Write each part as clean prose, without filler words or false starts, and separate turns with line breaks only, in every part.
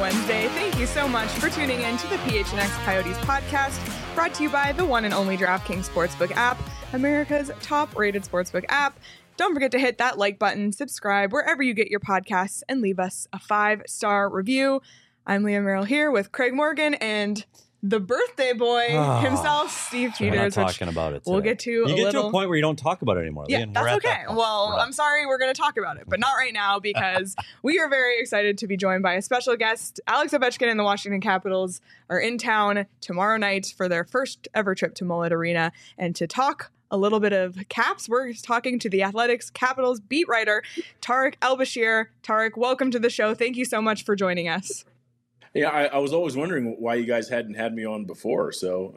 Wednesday. Thank you so much for tuning in to the PHNX Coyotes podcast, brought to you by the one and only DraftKings Sportsbook app, America's top-rated sportsbook app. Don't forget to hit that like button, subscribe wherever you get your podcasts, and leave us a 5-star review. I'm Leah Merrill here with Craig Morgan and the birthday boy himself, Steve Peters.
We're not talking about it today.
We'll get to
you get to a point where you don't talk about it anymore.
Yeah, that's okay. Well, I'm sorry we're going to talk about it, but not right now because we are very excited to be joined by a special guest. Alex Ovechkin and the Washington Capitals are in town tomorrow night for their first ever trip to Mullet Arena. And to talk a little bit of Caps, we're talking to the Athletics Capitals beat writer, Tarek El-Bashir. Tarek, welcome to the show. Thank you so much for joining us.
Yeah, I was always wondering why you guys hadn't had me on before, so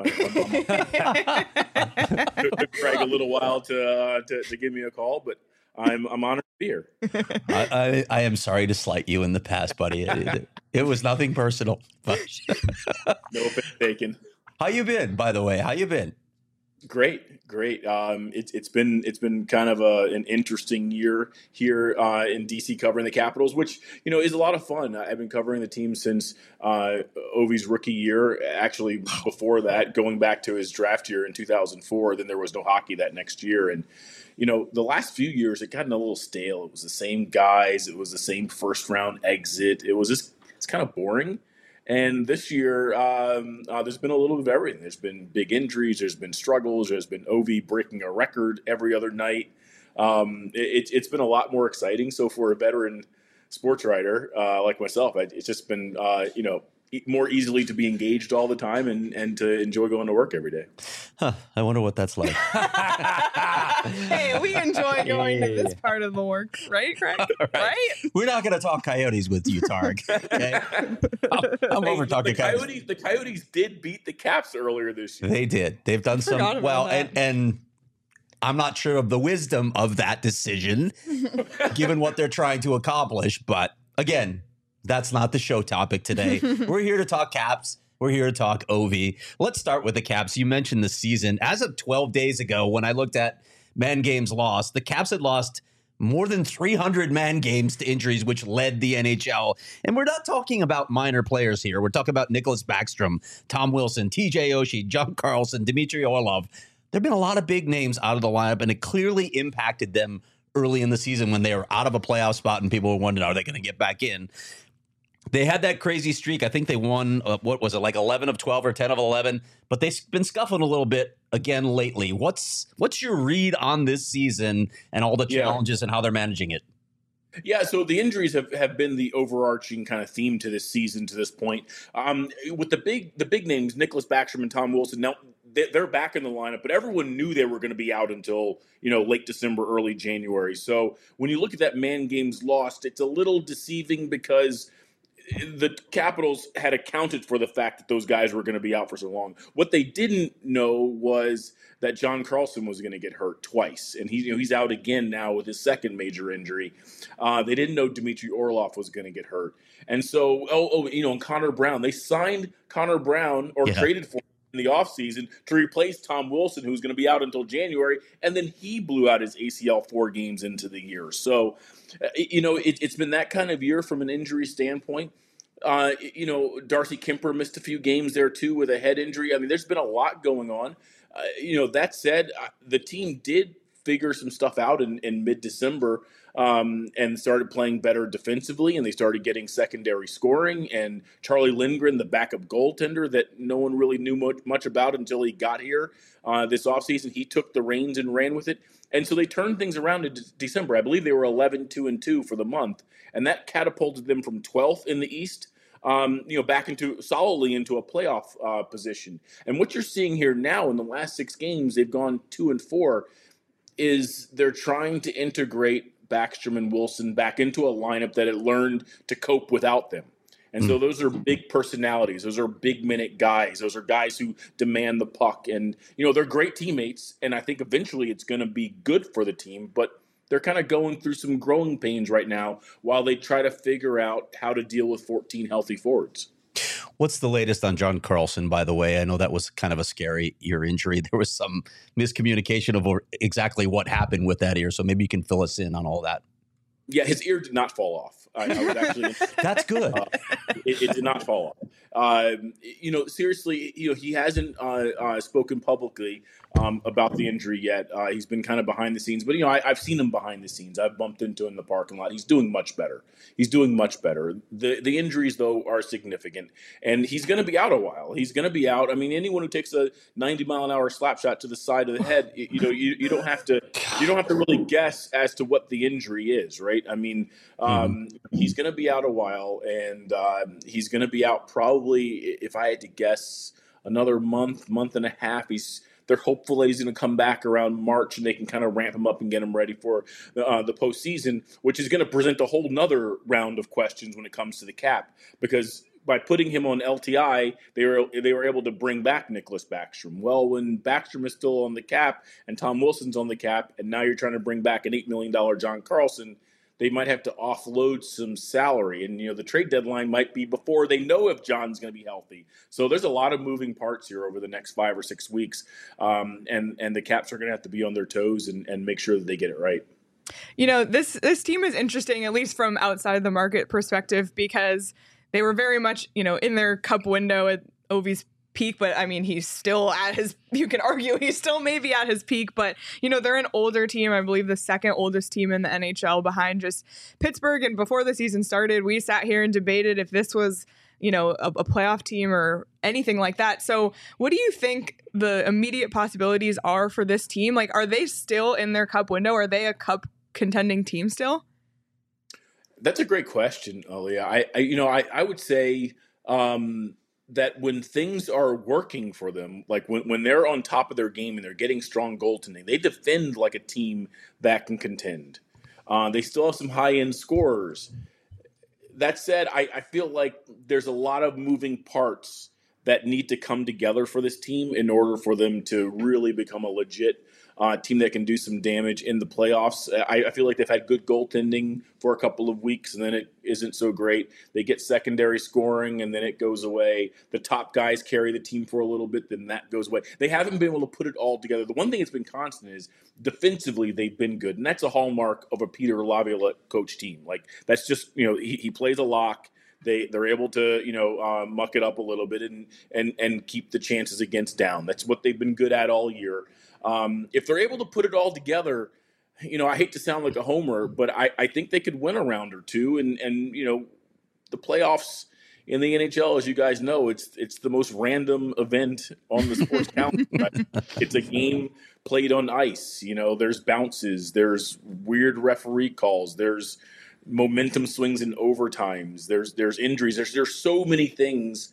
it took Craig a little while to give me a call, but I'm honored to be here.
I am sorry to slight you in the past, buddy. It was nothing personal.
No offense taken.
How you been, by the way? How you been?
Great. It's been kind of an interesting year here in DC covering the Capitals, which is a lot of fun. I've been covering the team since Ovi's rookie year. Actually, before that, going back to his draft year in 2004. Then there was no hockey that next year, and the last few years it gotten a little stale. It was the same guys. It was the same first round exit. It's kind of boring. And this year, there's been a little bit of everything. There's been big injuries. There's been struggles. There's been Ovi breaking a record every other night. It's been a lot more exciting. So for a veteran sports writer like myself, it's just been, more easily to be engaged all the time and to enjoy going to work every day.
I wonder what that's like.
Hey, we enjoy going to this part of the work, right, Craig? Right?
We're not going to talk Coyotes with you, Tarek. Okay? I'm over talking Coyotes.
The Coyotes did beat the Caps earlier this year.
They did. They've done some well, and I'm not sure of the wisdom of that decision, given what they're trying to accomplish. But again, that's not the show topic today. We're here to talk Caps. We're here to talk Ovi. Let's start with the Caps. You mentioned the season. As of 12 days ago, when I looked at man games lost, the Caps had lost more than 300 man games to injuries, which led the NHL. And we're not talking about minor players here. We're talking about Nicholas Backstrom, Tom Wilson, TJ Oshie, John Carlson, Dmitry Orlov. There have been a lot of big names out of the lineup, and it clearly impacted them early in the season when they were out of a playoff spot and people were wondering, are they going to get back in? They had that crazy streak. I think they won, 11 of 12 or 10 of 11, but they've been scuffling a little bit again lately. What's your read on this season and all the challenges and how they're managing it?
Yeah, so the injuries have been the overarching kind of theme to this season to this point. With the big names, Nicholas Backstrom and Tom Wilson, now they're back in the lineup, but everyone knew they were going to be out until late December, early January. So when you look at that man games lost, it's a little deceiving because the Capitals had accounted for the fact that those guys were going to be out for so long. What they didn't know was that John Carlson was going to get hurt twice, and he's out again now with his second major injury. They didn't know Dmitry Orlov was going to get hurt, and so and Connor Brown. They signed Connor Brown traded for him in the offseason to replace Tom Wilson, who's going to be out until January, and then he blew out his ACL 4 games into the year. So, it's been that kind of year from an injury standpoint. Darcy Kemper missed a few games there too with a head injury. I mean, there's been a lot going on. That said, the team did figure some stuff out in mid-December and started playing better defensively, and they started getting secondary scoring. And Charlie Lindgren, the backup goaltender that no one really knew much about until he got here this offseason, he took the reins and ran with it. And so they turned things around in December. I believe they were 11-2-2 for the month, and that catapulted them from 12th in the East back solidly into a playoff position. And what you're seeing here now in the last 6 games, they've gone 2-4, is they're trying to integrate Backstrom and Wilson back into a lineup that had learned to cope without them. And so those are big personalities. Those are big minute guys. Those are guys who demand the puck. And, they're great teammates. And I think eventually it's going to be good for the team. But they're kind of going through some growing pains right now while they try to figure out how to deal with 14 healthy forwards.
What's the latest on John Carlson, by the way? I know that was kind of a scary ear injury. There was some miscommunication of exactly what happened with that ear. So maybe you can fill us in on all that.
Yeah, his ear did not fall off. I was actually
that's good.
It did not fall off. Seriously, he hasn't spoken publicly about the injury yet. He's been kind of behind the scenes, but I've seen him behind the scenes. I've bumped into him in the parking lot. He's doing much better. The injuries though are significant, and he's going to be out a while. He's going to be out. I mean, anyone who takes a 90-mile-an-hour slap shot to the side of the head, you don't have to really guess as to what the injury is, right? I mean, he's going to be out a while, and he's going to be out probably, if I had to guess, another month and a half. They're hopeful that he's going to come back around March, and they can kind of ramp him up and get him ready for the postseason, which is going to present a whole nother round of questions when it comes to the cap, because by putting him on LTI, they were able to bring back Nicholas Backstrom. Well, when Backstrom is still on the cap and Tom Wilson's on the cap, and now you're trying to bring back an $8 million John Carlson, they might have to offload some salary. And, the trade deadline might be before they know if John's going to be healthy. So there's a lot of moving parts here over the next 5 or 6 weeks. And the Caps are going to have to be on their toes and make sure that they get it right.
This team is interesting, at least from outside the market perspective, because they were very much, in their cup window at Ovi's peak, but I mean, he's still at his, you can argue he's still maybe at his peak, but they're an older team. I believe the second oldest team in the NHL behind just Pittsburgh. And before the season started, we sat here and debated if this was, a playoff team or anything like that. So what do you think the immediate possibilities are for this team? Like, are they still in their cup window? Are they a cup contending team still?
That's a great question, Aaliyah. I would say, that when things are working for them, like when they're on top of their game and they're getting strong goaltending, they defend like a team that can contend. They still have some high-end scorers. That said, I feel like there's a lot of moving parts that need to come together for this team in order for them to really become a legit team that can do some damage in the playoffs. I feel like they've had good goaltending for a couple of weeks, and then it isn't so great. They get secondary scoring, and then it goes away. The top guys carry the team for a little bit, then that goes away. They haven't been able to put it all together. The one thing that's been constant is defensively they've been good, and that's a hallmark of a Peter Laviolette coach team. Like, that's just, he plays a lock. They're able to muck it up a little bit and keep the chances against down. That's what they've been good at all year. If they're able to put it all together, I hate to sound like a homer, but I think they could win a round or two. And the playoffs in the NHL, as you guys know, it's the most random event on the sports calendar. Right? It's a game played on ice. There's bounces, there's weird referee calls, there's momentum swings in overtimes, there's injuries, there's so many things.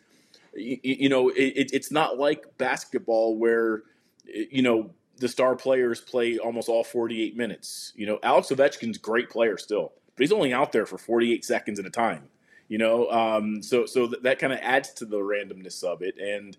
It's not like basketball where the star players play almost all 48 minutes. Alex Ovechkin's a great player still, but he's only out there for 48 seconds at a time. So that kind of adds to the randomness of it. And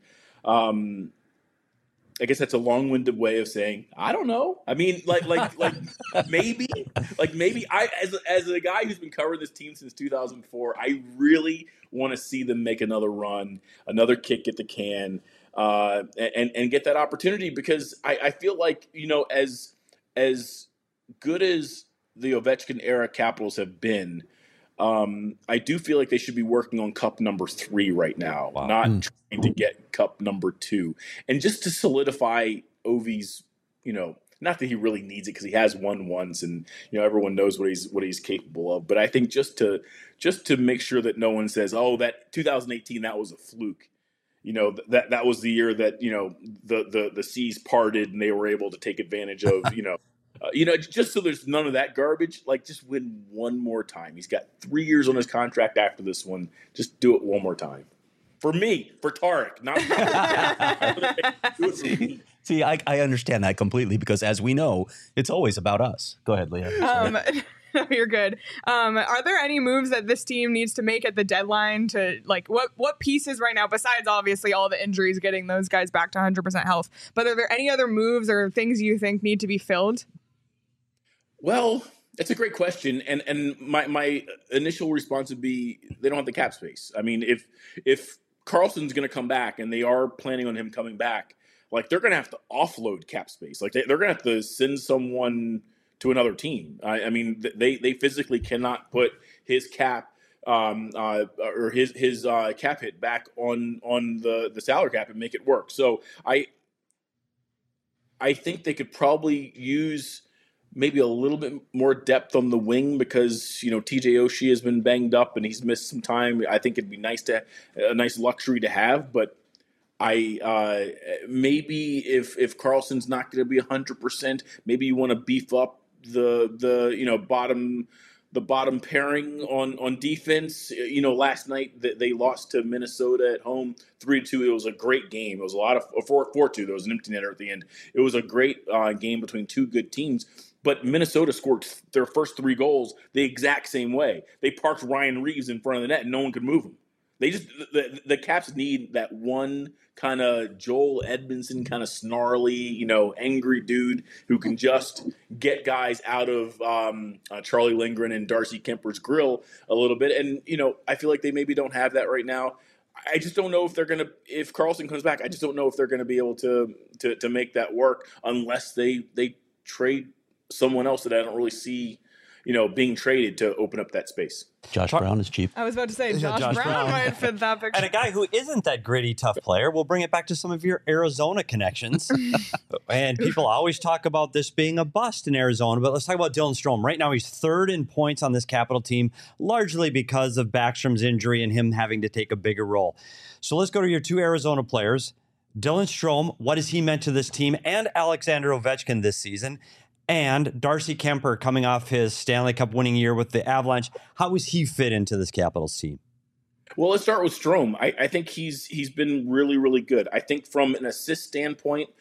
I guess that's a long-winded way of saying I don't know. I mean, like maybe I, as a guy who's been covering this team since 2004, I really want to see them make another run, another kick at the can, and get that opportunity, because I feel like as good as the Ovechkin era Capitals have been, I do feel like they should be working on cup number 3 right now, not trying to get cup number 2. And just to solidify Ovi's, not that he really needs it because he has won once and, everyone knows what he's capable of. But I think just to make sure that no one says, oh, that 2018, that was a fluke. That was the year that, the seas parted and they were able to take advantage of, just so there's none of that garbage, like just win one more time. He's got 3 years on his contract after this one. Just do it one more time. For me, for Tarek, not do it for me.
See, I understand that completely, because as we know, it's always about us. Go ahead, Leah.
No, you're good. Are there any moves that this team needs to make at the deadline to, like, what pieces right now, besides obviously all the injuries, getting those guys back to 100% health, but are there any other moves or things you think need to be filled?
Well, that's a great question, and my initial response would be they don't have the cap space. I mean, if Carlson's going to come back, and they are planning on him coming back, like, they're going to have to offload cap space. Like, they're going to have to send someone to another team. I mean, they physically cannot put his cap or his cap hit back on the salary cap and make it work. So I think they could probably use maybe a little bit more depth on the wing because, TJ Oshie has been banged up and he's missed some time. I think it'd be a nice luxury to have, but maybe if Karlsson's not going to be 100%, maybe you want to beef up the bottom pairing on defense. Last night they lost to Minnesota at home 3-2. It was a great game. It was a lot of 4-2. There was an empty netter at the end. It was a great game between two good teams. But Minnesota scored their first 3 goals the exact same way. They parked Ryan Reeves in front of the net and no one could move him. They just the Caps need that one kind of Joel Edmondson kind of snarly, angry dude who can just get guys out of Charlie Lindgren and Darcy Kemper's grill a little bit. And I feel like they maybe don't have that right now. I just don't know if Karlsson comes back. I just don't know if they're gonna be able to make that work unless they trade someone else that I don't really see, being traded to open up that space.
Josh Brown is cheap.
I was about to say Josh Brown might fit that picture.
And a guy who isn't that gritty, tough player, we'll bring it back to some of your Arizona connections. And people always talk about this being a bust in Arizona, but let's talk about Dylan Strome. Right now, he's 3rd in points on this Capital team, largely because of Backstrom's injury and him having to take a bigger role. So let's go to your 2 Arizona players. Dylan Strome, what has he meant to this team and Alexander Ovechkin this season? And Darcy Kemper coming off his Stanley Cup winning year with the Avalanche. How does he fit into this Capitals team?
Well, let's start with Strome. I think he's been really, really good. I think from an assist standpoint,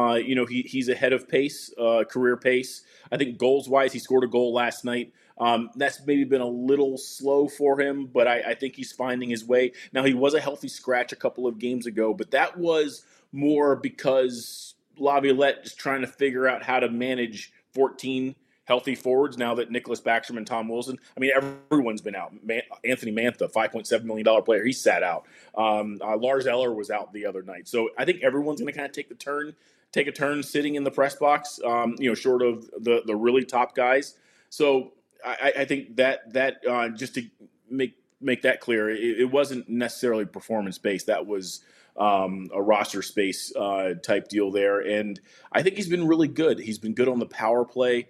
he's ahead of pace, career pace. I think goals-wise, he scored a goal last night. That's maybe been a little slow for him, but I think he's finding his way. Now, he was a healthy scratch a couple of games ago, but that was more because Laviolette is trying to figure out how to manage 14 healthy forwards now that Nicholas Backstrom and Tom Wilson. I mean, everyone's been out. Anthony Mantha, $5.7 million player, he sat out. Lars Eller was out the other night. So I think everyone's going to kind of take a turn sitting in the press box, short of the really top guys. So I think that just to make that clear, it wasn't necessarily performance-based. That was a roster space type deal there. And I think he's been really good. He's been good on the power play.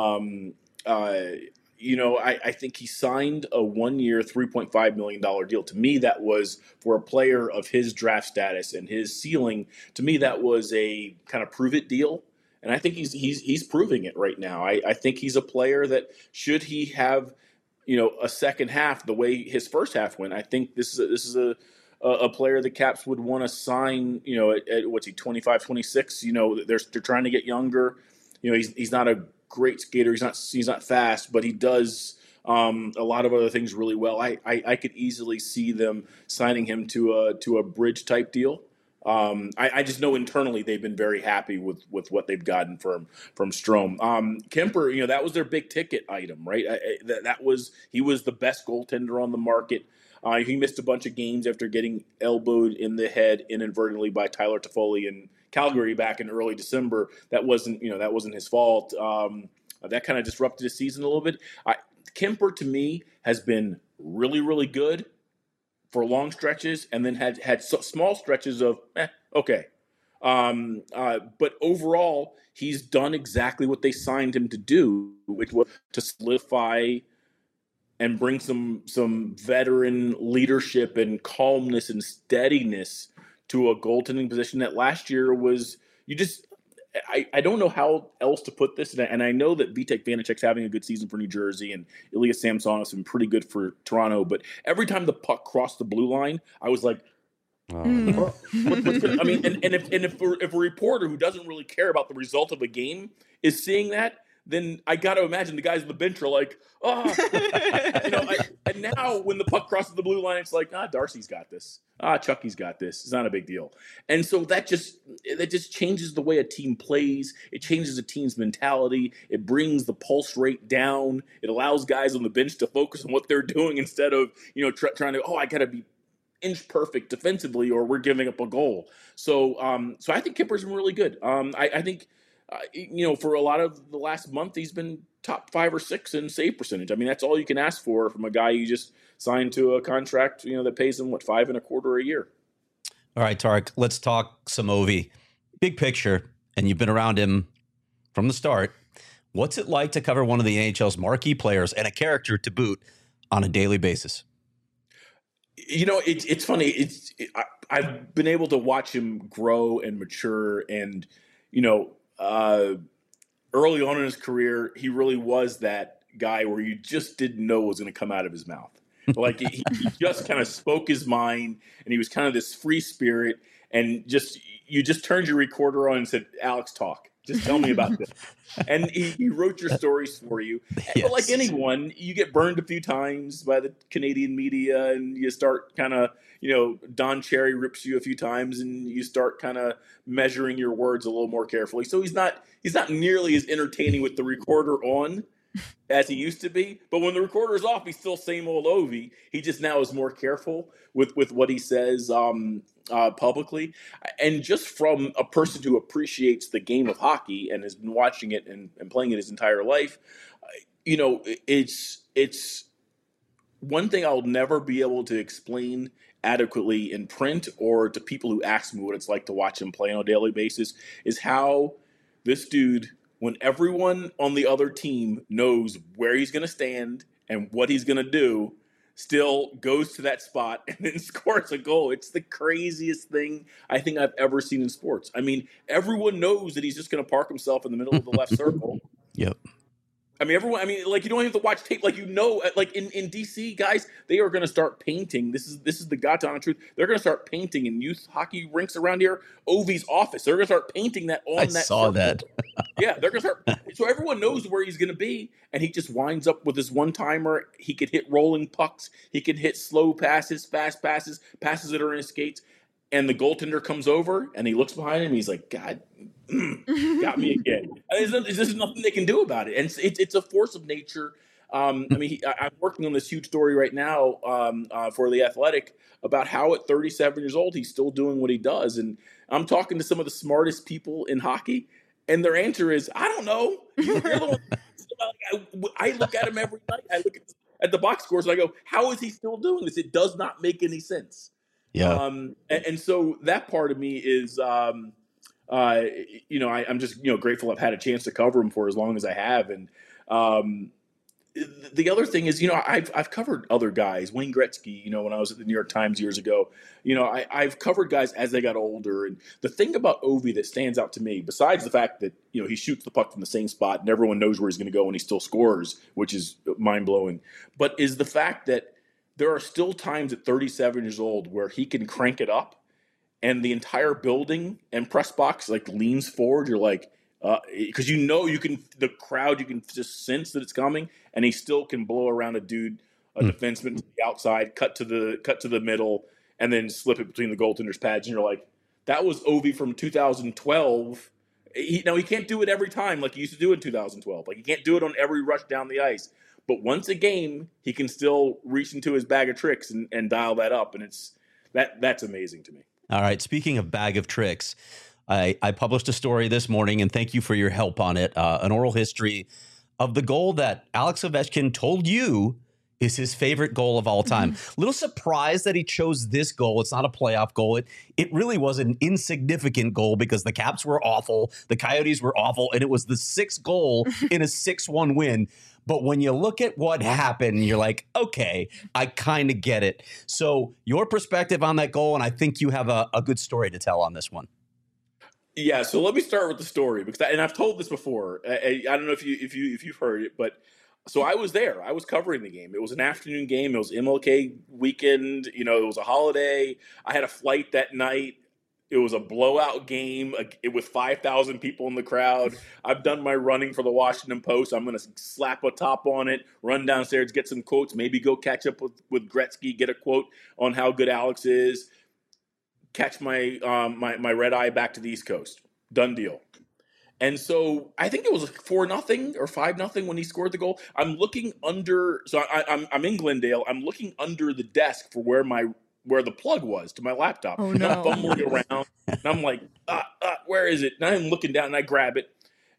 I think he signed a 1-year, $3.5 million deal. To me, that was for a player of his draft status and his ceiling. To me, that was a kind of prove it deal. And I think he's proving it right now. I think he's a player that should he have, a second half the way his first half went, I think this is a player the Caps would want to sign, at what's he, 25, 26, they're trying to get younger. He's not a great skater. He's not fast, but he does a lot of other things really well. I could easily see them signing him to a bridge type deal. I just know internally they've been very happy with what they've gotten from Strome. Kemper, that was their big ticket item, right? He was the best goaltender on the market. He missed a bunch of games after getting elbowed in the head inadvertently by Tyler Toffoli in Calgary back in early December. That wasn't his fault. That kind of disrupted his season a little bit. Kemper, to me, has been really, really good for long stretches, and then had small stretches of okay. But overall, he's done exactly what they signed him to do, which was to solidify and bring some veteran leadership and calmness and steadiness to a goaltending position that last year was I don't know how else to put this, and I know that Vitek Vanacek's having a good season for New Jersey, and Ilya Samsonov's been pretty good for Toronto, but every time the puck crossed the blue line, I was like, what's gonna, I mean, and if a reporter who doesn't really care about the result of a game is seeing that, then I got to imagine the guys on the bench are like, and now when the puck crosses the blue line, it's like, Darcy's got this. Chucky's got this. It's not a big deal. And so that just changes the way a team plays. It changes a team's mentality. It brings the pulse rate down. It allows guys on the bench to focus on what they're doing instead of, trying to, I got to be inch perfect defensively or we're giving up a goal. So I think Kemper's been really good. I think for a lot of the last month, he's been top 5 or 6 in save percentage. I mean, that's all you can ask for from a guy you just signed to a contract, that pays him, $5.25 a year.
All right, Tarek, let's talk some Ovi. Big picture, and you've been around him from the start. What's it like to cover one of the NHL's marquee players and a character to boot on a daily basis?
It's funny. I've been able to watch him grow and mature, and early on in his career, he really was that guy where you just didn't know what was going to come out of his mouth. Like he just kind of spoke his mind, and he was kind of this free spirit, and you just turned your recorder on and said, "Alex, talk. Just tell me about this." And he wrote your stories for you. Yes. But like anyone, you get burned a few times by the Canadian media, and you start kind of, Don Cherry rips you a few times, and you start kind of measuring your words a little more carefully. So he's not nearly as entertaining with the recorder on as he used to be. But when the recorder's off, he's still same old Ovi. He just now is more careful with what he says publicly. And just from a person who appreciates the game of hockey and has been watching it and playing it his entire life, it's one thing I'll never be able to explain adequately in print or to people who ask me what it's like to watch him play on a daily basis is how this dude, when everyone on the other team knows where he's going to stand and what he's going to do, still goes to that spot and then scores a goal. It's the craziest thing I think I've ever seen in sports. I mean, everyone knows that he's just going to park himself in the middle of the left circle.
Yep.
I mean, you don't have to watch tape. Like, in DC, guys, they are going to start painting. This is the God's honest truth. They're going to start painting in youth hockey rinks around here. Ovi's office. They're going to start painting that on that. I
saw that.
Yeah, they're going to start. So everyone knows where he's going to be, and he just winds up with this one-timer. He could hit rolling pucks. He could hit slow passes, fast passes, passes that are in his skates. And the goaltender comes over, and he looks behind him, and he's like, God, got me again. There's nothing they can do about it. And it's a force of nature. I'm working on this huge story right now for The Athletic about how at 37 years old, he's still doing what he does. And I'm talking to some of the smartest people in hockey, and their answer is, I don't know. I look at him every night. I look at the box scores, and I go, how is he still doing this? It does not make any sense.
Yeah.
And so that part of me is, I'm just, grateful I've had a chance to cover him for as long as I have. And the other thing is, I've covered other guys, Wayne Gretzky, when I was at the New York Times years ago, I've covered guys as they got older. And the thing about Ovi that stands out to me, besides the fact that, he shoots the puck from the same spot and everyone knows where he's going to go and he still scores, which is mind blowing, but is the fact that there are still times at 37 years old where he can crank it up and the entire building and press box leans forward. You're like, because the crowd, you can just sense that it's coming, and he still can blow around a defenseman to the outside, cut to the middle, and then slip it between the goaltender's pads. And you're like, that was Ovi from 2012. He can't do it every time like he used to do in 2012. Like, he can't do it on every rush down the ice. But once a game, he can still reach into his bag of tricks and dial that up, and that's amazing to me.
All right. Speaking of bag of tricks, I published a story this morning, and thank you for your help on it. An oral history of the goal that Alex Ovechkin told you is his favorite goal of all time. Little surprised that he chose this goal. It's not a playoff goal. It really was an insignificant goal because the Caps were awful, the Coyotes were awful, and it was the 6th goal in a 6-1 win. But when you look at what happened, you're like, okay, I kind of get it. So your perspective on that goal, and I think you have a good story to tell on this one.
Yeah, so let me start with the story because, and I've told this before. I don't know if you've heard it, but so I was there. I was covering the game. It was an afternoon game. It was MLK weekend. It was a holiday. I had a flight that night. It was a blowout game with 5,000 people in the crowd. I've done my running for the Washington Post. I'm going to slap a top on it, run downstairs, get some quotes, maybe go catch up with Gretzky, get a quote on how good Alex is, catch my my red eye back to the East Coast. Done deal. And so I think it was 4-0 or 5-0 when he scored the goal. I'm looking under. So I'm in Glendale. I'm looking under the desk for where the plug was to my laptop.
Oh,
and
no.
I'm fumbling around, and I'm like, where is it? And I'm looking down, and I grab it,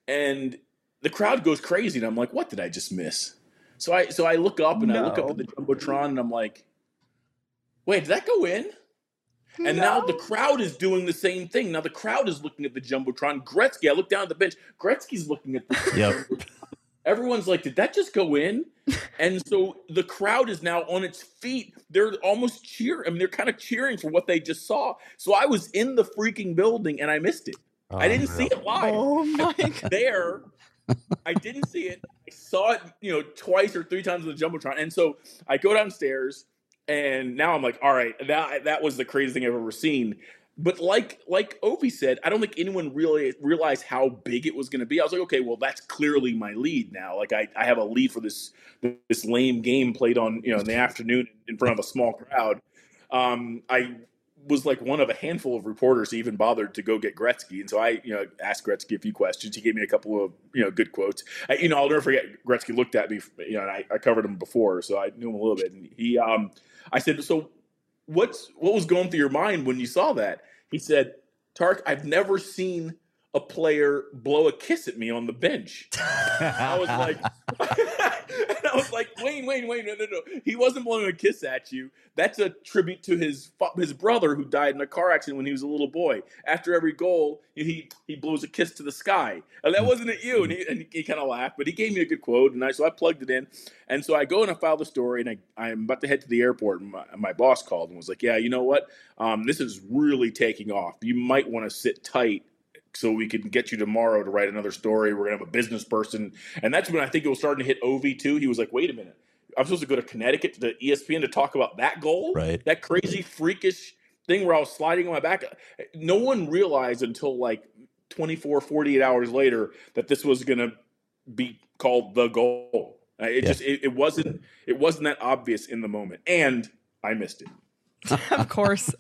and the crowd goes crazy, and I'm like, what did I just miss? So I look up and I look up at the Jumbotron, and I'm like, wait, did that go in? And now the crowd is doing the same thing. Now the crowd is looking at the Jumbotron. Gretzky, I look down at the bench. Gretzky's looking at the Jumbotron. Everyone's like, did that just go in? And so the crowd is now on its feet. They're almost cheering. I mean, they're kind of cheering for what they just saw. So I was in the freaking building and I missed it. I didn't see it live.
Oh my God.
There, I didn't see it. I saw it, twice or three times on the Jumbotron. And so I go downstairs, and now I'm like, all right, that was the craziest thing I've ever seen. But like Ovi said, I don't think anyone really realized how big it was going to be. I was like, okay, well, that's clearly my lead now. Like I have a lead for this lame game played on in the afternoon in front of a small crowd. I was like one of a handful of reporters who even bothered to go get Gretzky, and so I asked Gretzky a few questions. He gave me a couple of good quotes. I'll never forget. Gretzky looked at me, and I covered him before, so I knew him a little bit. And he, I said, so what was going through your mind when you saw that? He said, Tark, I've never seen a player blow a kiss at me on the bench. I was like, wait, no. He wasn't blowing a kiss at you. That's a tribute to his brother who died in a car accident when he was a little boy. After every goal, he blows a kiss to the sky. And that wasn't at you. And he kind of laughed, but he gave me a good quote. And so I plugged it in. And so I go and I file the story, and I'm about to head to the airport. And my boss called and was like, yeah, you know what? This is really taking off. You might want to sit tight so we can get you tomorrow to write another story. We're going to have a business person. And that's when I think it was starting to hit Ovi too. He was like, wait a minute. I'm supposed to go to Connecticut to the ESPN to talk about that goal?
Right.
That crazy, freakish thing where I was sliding on my back. No one realized until like 24, 48 hours later that this was going to be called the goal. It wasn't that obvious in the moment. And I missed it.
Of course.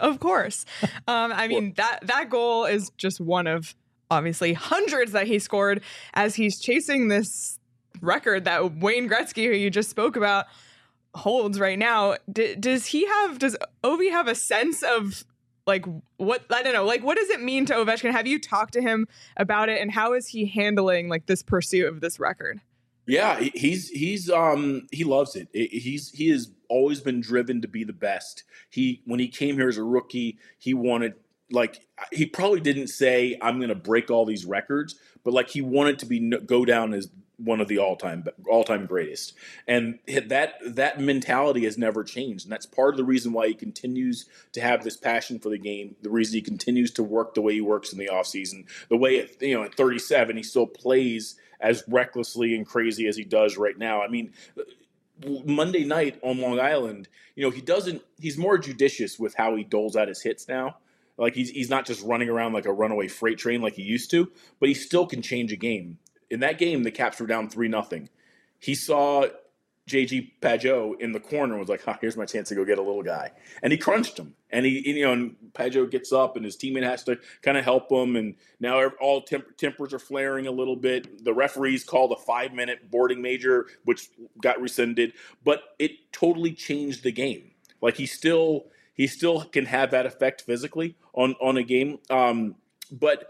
I mean, that goal is just one of obviously hundreds that he scored as he's chasing this record that Wayne Gretzky, who you just spoke about, holds right now. Does Ovi have a sense of like what, I don't know, like what does it mean to Ovechkin? Have you talked to him about it, and how is he handling like this pursuit of this record?
Yeah, he loves it. He has always been driven to be the best. When he came here as a rookie, he wanted, like, he probably didn't say I'm going to break all these records, but like he wanted to go down as one of the all-time greatest. And that mentality has never changed. And that's part of the reason why he continues to have this passion for the game, the reason he continues to work the way he works in the offseason, the way at 37 he still plays as recklessly and crazy as he does right now. I mean, Monday night on Long Island, he's more judicious with how he doles out his hits now. Like he's not just running around like a runaway freight train like he used to, but he still can change a game. In that game, the Caps were down 3-0. He saw J.G. Pageau in the corner and was like, here's my chance to go get a little guy. And he crunched him. And and Pageau gets up and his teammate has to kind of help him. And now all tempers are flaring a little bit. The referees called a 5-minute boarding major, which got rescinded. But it totally changed the game. Like he still can have that effect physically on a game. But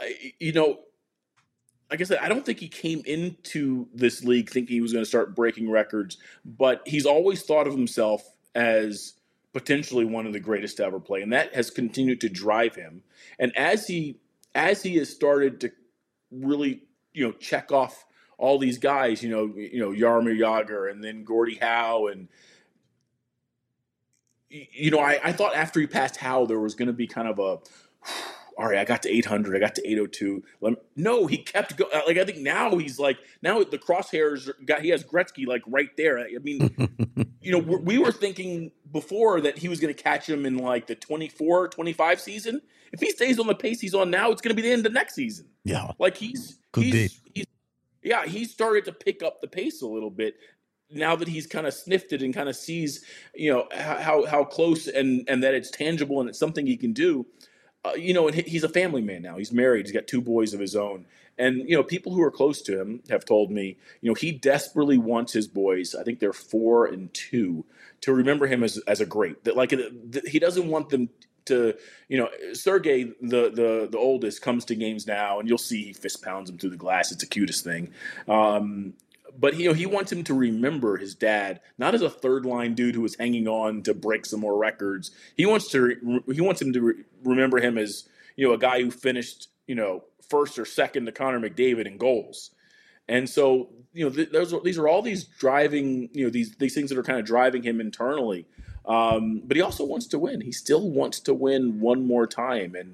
like I said, I don't think he came into this league thinking he was going to start breaking records, but he's always thought of himself as potentially one of the greatest to ever play, and that has continued to drive him. And as he has started to really, check off all these guys, Jaromir Jagr and then Gordie Howe, and I thought after he passed Howe there was going to be kind of a all right, I got to 800. I got to 802. No, he kept going. Like, I think now he's like, now the crosshairs he has Gretzky like right there. I mean, we were thinking before that he was going to catch him in like the 24, 25 season. If he stays on the pace he's on now, it's going to be the end of next season.
Yeah.
Like he's started to pick up the pace a little bit now that he's kind of sniffed it and kind of sees, how close and that it's tangible and it's something he can do. And he's a family man now. He's married. He's got 2 boys of his own. And, people who are close to him have told me, he desperately wants his boys, I think they're 4 and 2, to remember him as a great. That he doesn't want them Sergey, the oldest, comes to games now, and you'll see he fist pounds him through the glass. It's the cutest thing. But he wants him to remember his dad, not as a third line dude who was hanging on to break some more records. He wants him to remember him as a guy who finished first or second to Connor McDavid in goals. And so these are all these driving these things that are kind of driving him internally. But he also wants to win. He still wants to win one more time. And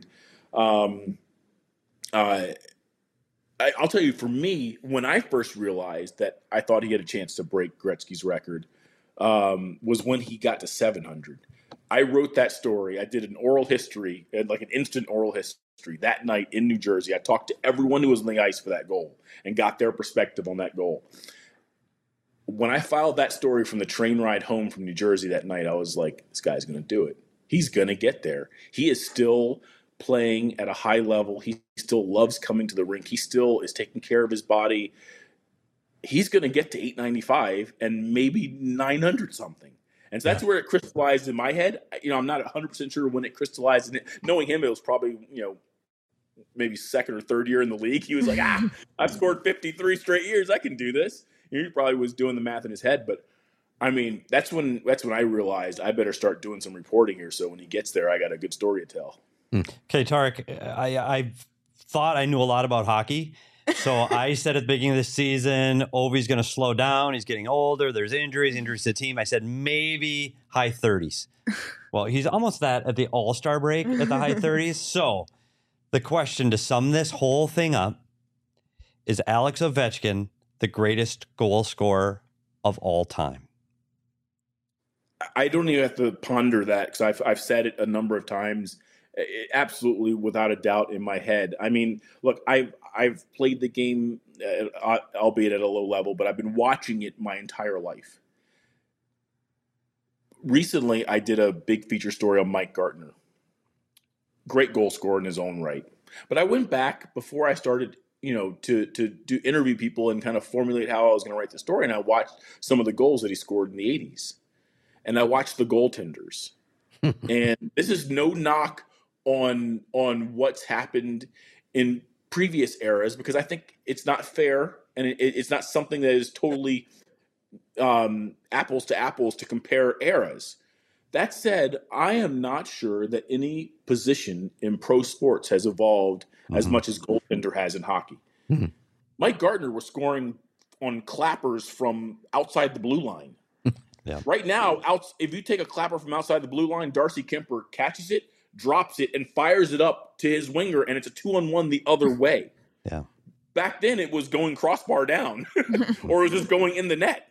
I'll tell you, for me, when I first realized that I thought he had a chance to break Gretzky's record was when he got to 700. I wrote that story. I did an oral history, like an instant oral history that night in New Jersey. I talked to everyone who was on the ice for that goal and got their perspective on that goal. When I filed that story from the train ride home from New Jersey that night, I was like, this guy's going to do it. He's going to get there. He is still playing at a high level. He still loves coming to the rink. He still is taking care of his body. He's going to get to 895 and maybe 900 something. And so that's where it crystallized in my head. I'm not 100% sure when it crystallized. And knowing him, it was probably, maybe second or third year in the league. He was like, I've scored 53 straight years. I can do this. He probably was doing the math in his head. But, I mean, that's when I realized I better start doing some reporting here. So when he gets there, I got a good story to tell.
Okay, Tarek, I thought I knew a lot about hockey. So I said at the beginning of the season, Ovi's going to slow down. He's getting older. There's injuries to the team. I said maybe high 30s. Well, he's almost that at the All-Star break at the high 30s. So the question to sum this whole thing up is Alex Ovechkin the greatest goal scorer of all time?
I don't even have to ponder that because I've said it a number of times. Absolutely, without a doubt in my head. I mean, look, I've played the game, albeit at a low level, but I've been watching it my entire life. Recently, I did a big feature story on Mike Gartner. Great goal scorer in his own right. But I went back before I started, to do interview people and kind of formulate how I was going to write the story, and I watched some of the goals that he scored in the 80s. And I watched the goaltenders. And this is no knock on what's happened in previous eras, because I think it's not fair and it's not something that is totally apples to apples to compare eras. That said, I am not sure that any position in pro sports has evolved as much as goaltender has in hockey. Mike Gartner was scoring on clappers from outside the blue line.
Yeah.
Right now, if you take a clapper from outside the blue line, Darcy Kemper catches it, drops it, and fires it up to his winger, and it's a 2-on-1 the other way.
Yeah.
Back then, it was going crossbar down, or it was just going in the net.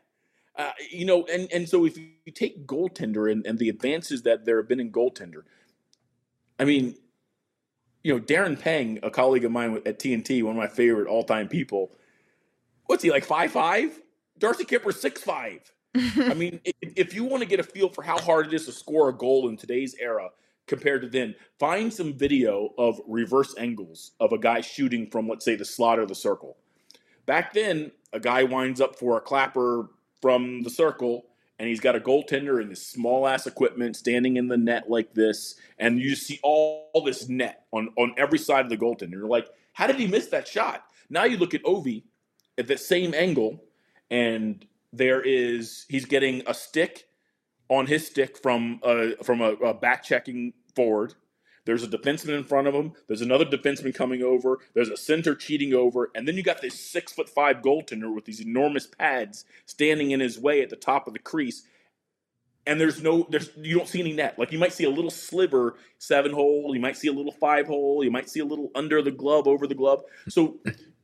And so if you take goaltender and the advances that there have been in goaltender, I mean, Darren Pang, a colleague of mine at TNT, one of my favorite all-time people, what's he, like 5'5"? Darcy Kemper's 6'5". I mean, if you want to get a feel for how hard it is to score a goal in today's era compared to then, find some video of reverse angles of a guy shooting from, let's say, the slot or the circle. Back then, a guy winds up for a clapper from the circle, and he's got a goaltender in this small-ass equipment standing in the net like this, and you just see all this net on every side of the goaltender. You're like, how did he miss that shot? Now you look at Ovi at that same angle, and he's getting a stick on his stick from a back-checking forward. There's a defenseman in front of him. There's another defenseman coming over. There's a center cheating over. And then you got this 6'5" goaltender with these enormous pads standing in his way at the top of the crease. And you don't see any net. Like, you might see a little sliver 7-hole. You might see a little 5-hole. You might see a little under the glove, over the glove. So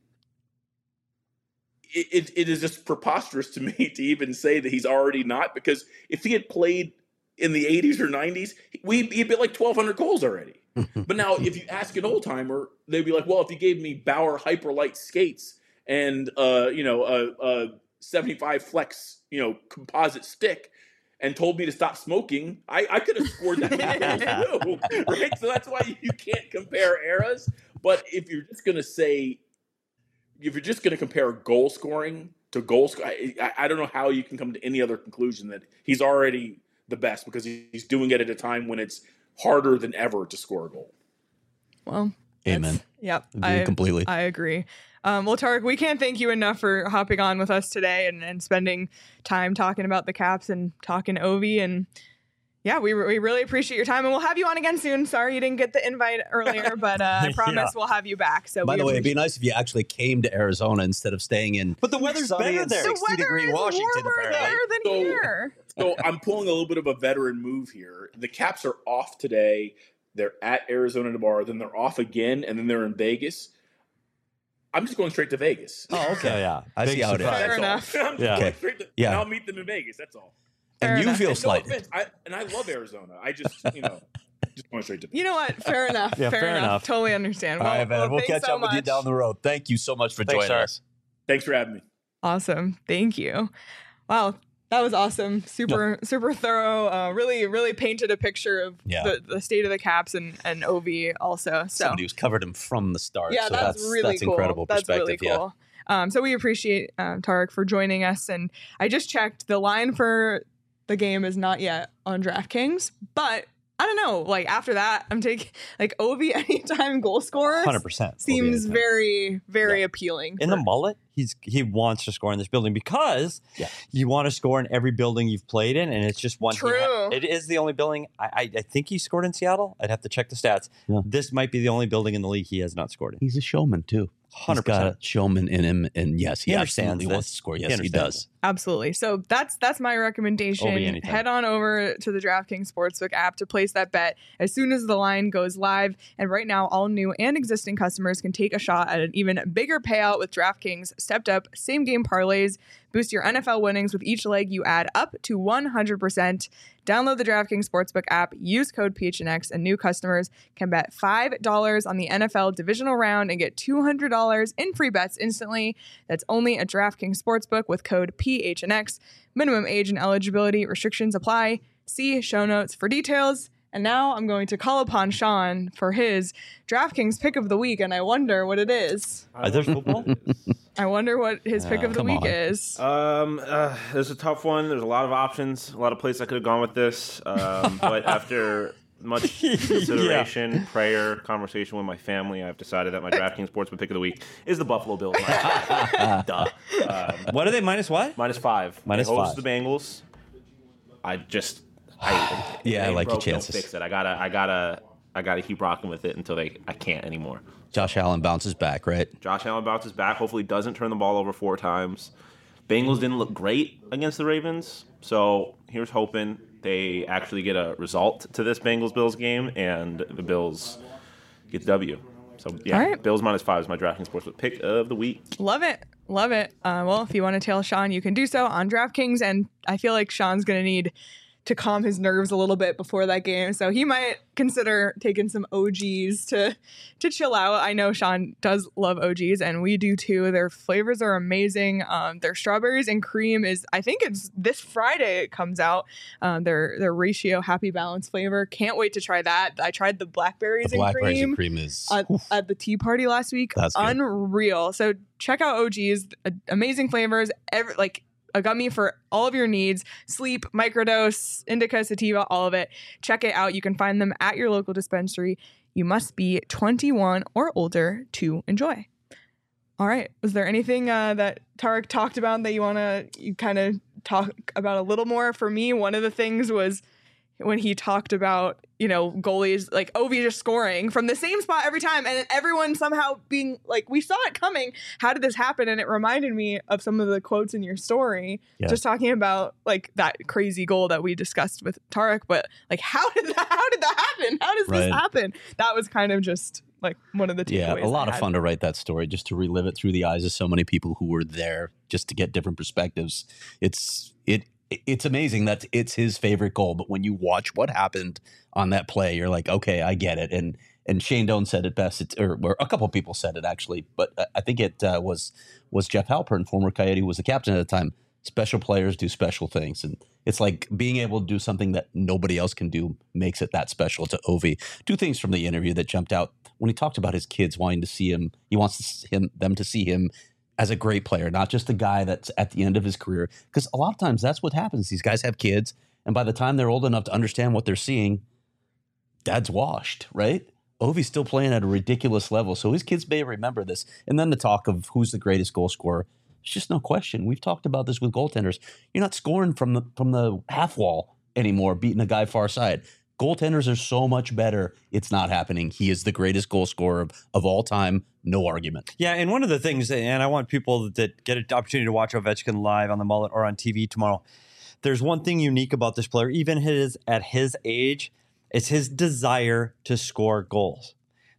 it is just preposterous to me to even say that he's already not, because if he had played in the 80s or 90s, he'd be like 1,200 goals already. But now if you ask an old timer, they'd be like, well, if you gave me Bauer Hyperlight skates and a 75 flex, composite stick and told me to stop smoking, I could have scored that many goals too, right? So that's why you can't compare eras. But if you're just going to compare goal scoring to goal scoring, I don't know how you can come to any other conclusion that he's already the best, because he's doing it at a time when it's harder than ever to score a goal.
Well,
amen.
Yep.
Completely.
I agree. Well, Tarek, we can't thank you enough for hopping on with us today and spending time talking about the Caps and talking Ovi. And yeah, we really appreciate your time, and we'll have you on again soon. Sorry you didn't get the invite earlier, but I promise we'll have you back. So
by the way, it'd be nice if you actually came to Arizona instead of staying in.
But the weather's better there.
60-degree Washington, apparently.
Than here.
So I'm pulling a little bit of a veteran move here. The Caps are off today. They're at Arizona tomorrow. Then they're off again, and then they're in Vegas. I'm just going straight to Vegas.
Oh, okay, yeah.
I see how it is.
Fair enough.
I'm just going straight to, and I'll meet them in Vegas. That's all.
And you feel slighted.
No I love Arizona. I just, just going straight to.
You know what? Fair enough.
Yeah, fair enough.
Totally understand.
All right, man. We'll catch up with you down the road. Thank you so much for joining us.
Thanks for having me.
Awesome. Thank you. Wow. That was awesome. Super thorough. Really painted a picture of the state of the Caps and Ovi also. So
somebody who's covered him from the start.
Yeah,
so
that's really cool.
Incredible perspective.
That's really cool. So we appreciate Tarek for joining us. And I just checked, the line for the game is not yet on DraftKings, but I don't know. Like after that, I'm taking like Ovi anytime goal scorer.
100%
seems very appealing.
In the mullet, he wants to score in this building because you want to score in every building you've played in, and it's just one.
True.
It is the only building. I think he scored in Seattle. I'd have to check the stats. Yeah. This might be the only building in the league he has not scored in.
He's a showman too.
100%.
He's got a showman in him, and yes, he absolutely wants to score. Yes, he does.
Absolutely. So that's my recommendation. Head on over to the DraftKings Sportsbook app to place that bet as soon as the line goes live. And right now, all new and existing customers can take a shot at an even bigger payout with DraftKings stepped up same game parlays. Boost your NFL winnings with each leg you add up to 100%. Download the DraftKings Sportsbook app, use code PHNX, and new customers can bet $5 on the NFL divisional round and get $200 in free bets instantly. That's only at DraftKings Sportsbook with code PHNX. Minimum age and eligibility restrictions apply. See show notes for details. And now I'm going to call upon Sean for his DraftKings pick of the week, and I wonder what it is.
There's football?
I wonder what his pick of the week is.
There's a tough one. There's a lot of options, a lot of places I could have gone with this. But after much consideration, prayer, conversation with my family, I've decided that my DraftKings Sportsbook pick of the week is the Buffalo Bills. Duh.
What are they, minus what?
-5.
Minus
they host
5.
the Bengals. I
like your chances.
Fix it. I gotta keep rocking with it until I can't anymore.
Josh Allen bounces back, right?
Josh Allen bounces back. Hopefully doesn't turn the ball over 4 times. Bengals didn't look great against the Ravens, so here's hoping they actually get a result to this Bengals-Bills game and the Bills get the W. So yeah,
right.
Bills -5 is my DraftKings Sportsbook pick of the week.
Love it. Well, if you want to tail Sean, you can do so on DraftKings, and I feel like Sean's going to need to calm his nerves a little bit before that game. So he might consider taking some OGs to chill out. I know Sean does love OGs, and we do too. Their flavors are amazing. Their strawberries and cream is, I think it's this Friday it comes out. Their ratio happy balance flavor. Can't wait to try that. I tried the blackberries and cream
is
at the tea party last week.
That's good.
Unreal. So check out OGs. Amazing flavors. A gummy for all of your needs: sleep, microdose, indica, sativa, all of it. Check it out. You can find them at your local dispensary. You must be 21 or older to enjoy. All right. Was there anything that Tarek talked about that you kind of talk about a little more? For me, one of the things was when he talked about, goalies, like Ovi just scoring from the same spot every time, and then everyone somehow being like, we saw it coming. How did this happen? And it reminded me of some of the quotes in your story, just talking about like that crazy goal that we discussed with Tarek. But like, how did that happen? How does this happen? That was kind of just like one of the takeaways.
Yeah, a lot of fun to write that story, just to relive it through the eyes of so many people who were there, just to get different perspectives. It's amazing that it's his favorite goal, but when you watch what happened on that play, you're like, okay, I get it. And Shane Doan said it best, or a couple of people said it actually, but I think it was Jeff Halpern, former Coyote, who was the captain at the time. Special players do special things, and it's like being able to do something that nobody else can do makes it that special to Ovi. 2 things from the interview that jumped out when he talked about his kids wanting to see him. He wants them to see him as a great player, not just a guy that's at the end of his career. Because a lot of times that's what happens. These guys have kids, and by the time they're old enough to understand what they're seeing, dad's washed, right? Ovi's still playing at a ridiculous level, so his kids may remember this. And then the talk of who's the greatest goal scorer, it's just no question. We've talked about this with goaltenders. You're not scoring from the half wall anymore, beating a guy far side. Goaltenders are so much better. It's not happening. He is the greatest goal scorer of all time. No argument.
Yeah, and one of the things, and I want people that get an opportunity to watch Ovechkin live on the Mullet or on TV tomorrow, there's one thing unique about this player, even at his age, it's his desire to score goals.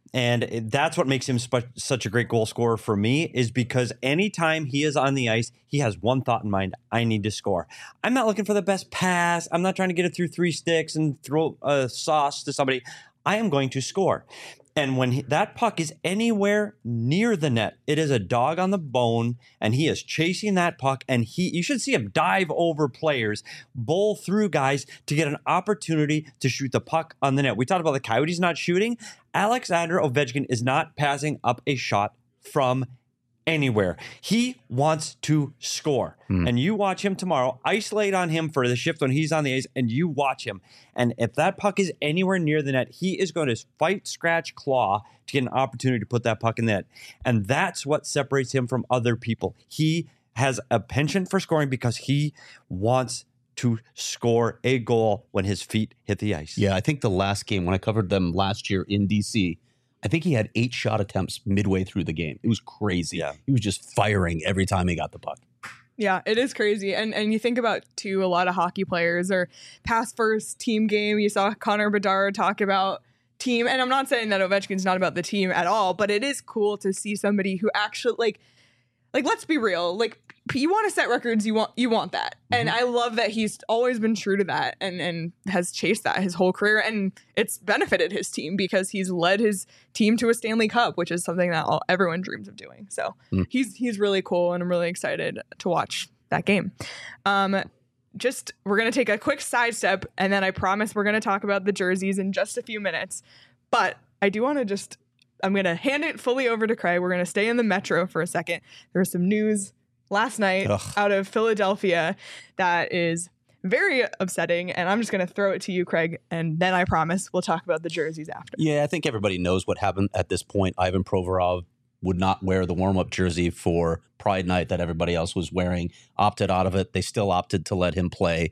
And that's what makes him such a great goal scorer for me, is because anytime he is on the ice, he has one thought in mind: I need to score. I'm not looking for the best pass. I'm not trying to get it through 3 sticks and throw a sauce to somebody. I am going to score. And when that puck is anywhere near the net, it is a dog on the bone, and he is chasing that puck, and you should see him dive over players, bowl through guys to get an opportunity to shoot the puck on the net. We talked about the Coyotes not shooting. Alexander Ovechkin is not passing up a shot from anywhere. He wants to score. And you watch him tomorrow, isolate on him for the shift when he's on the ice, and you watch him. And if that puck is anywhere near the net, he is going to fight, scratch, claw to get an opportunity to put that puck in the net. And that's what separates him from other people. He has a penchant for scoring because he wants to score a goal when his feet hit the ice.
Yeah, I think the last game, when I covered them last year in DC, I think he had 8 shot attempts midway through the game. It was crazy. Yeah. He was just firing every time he got the puck.
Yeah, it is crazy. And you think about, too, a lot of hockey players are pass first, team game. You saw Connor Bedard talk about team. And I'm not saying that Ovechkin's not about the team at all, but it is cool to see somebody who actually, like let's be real. Like, you want to set records, you want that. And I love that he's always been true to that and has chased that his whole career. And it's benefited his team because he's led his team to a Stanley Cup, which is something that everyone dreams of doing. So he's really cool, and I'm really excited to watch that game. We're going to take a quick sidestep, and then I promise we're going to talk about the jerseys in just a few minutes. But I do want to I'm going to hand it fully over to Craig. We're going to stay in the Metro for a second. There was some news last night out of Philadelphia that is very upsetting, and I'm just going to throw it to you, Craig, and then I promise we'll talk about the jerseys after.
Yeah, I think everybody knows what happened at this point. Ivan Provorov would not wear the warm-up jersey for Pride Night that everybody else was wearing, opted out of it. They still opted to let him play.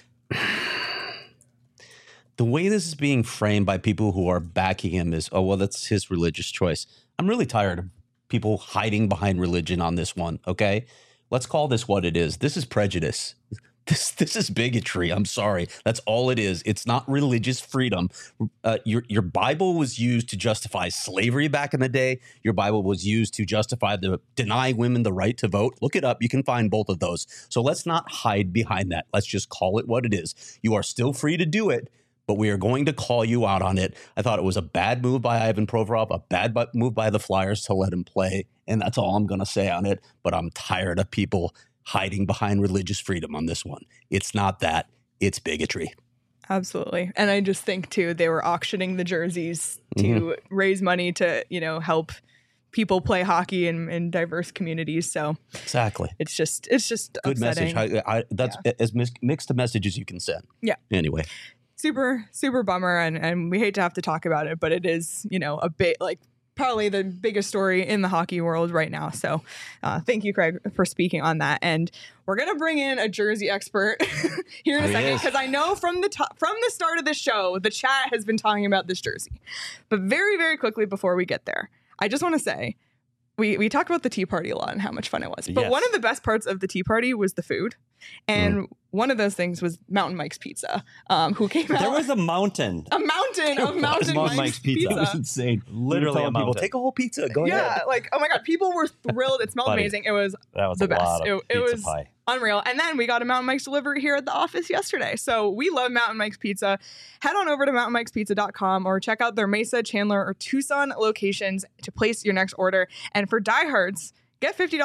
The way this is being framed by people who are backing him is, oh, well, that's his religious choice. I'm really tired of people hiding behind religion on this one, okay? Let's call this what it is. This is prejudice. This is bigotry. I'm sorry. That's all it is. It's not religious freedom. Your Bible was used to justify slavery back in the day. Your Bible was used to justify deny women the right to vote. Look it up. You can find both of those. So let's not hide behind that. Let's just call it what it is. You are still free to do it, but we are going to call you out on it. I thought it was a bad move by Ivan Provorov, a bad move by the Flyers to let him play, and that's all I'm going to say on it. But I'm tired of people hiding behind religious freedom on this one. It's not that. It's bigotry.
Absolutely. And I just think, too, they were auctioning the jerseys to raise money to, help people play hockey in diverse communities. So
exactly,
it's just
good
upsetting.
message. That's as mixed a message as you can send.
Yeah.
Anyway.
Super, super bummer. And we hate to have to talk about it, but it is, a bit probably the biggest story in the hockey world right now. So thank you, Craig, for speaking on that. And we're going to bring in a jersey expert here in a second, because I know from the start of the show, the chat has been talking about this jersey. But very, very quickly before we get there, I just want to say, we talked about the tea party a lot and how much fun it was. But one of the best parts of the tea party was the food. And one of those things was Mountain Mike's Pizza, who came out.
There was a mountain.
A mountain of Mountain Mike's Pizza.
It was insane.
Literally a mountain.
People, take a whole pizza. Go ahead.
Yeah, oh my God. People were thrilled. It smelled amazing. It was the best. It was
pie.
Unreal. And then we got a Mountain Mike's delivery here at the office yesterday. So we love Mountain Mike's Pizza. Head on over to mountainmikespizza.com or check out their Mesa, Chandler, or Tucson locations to place your next order. And for diehards, get a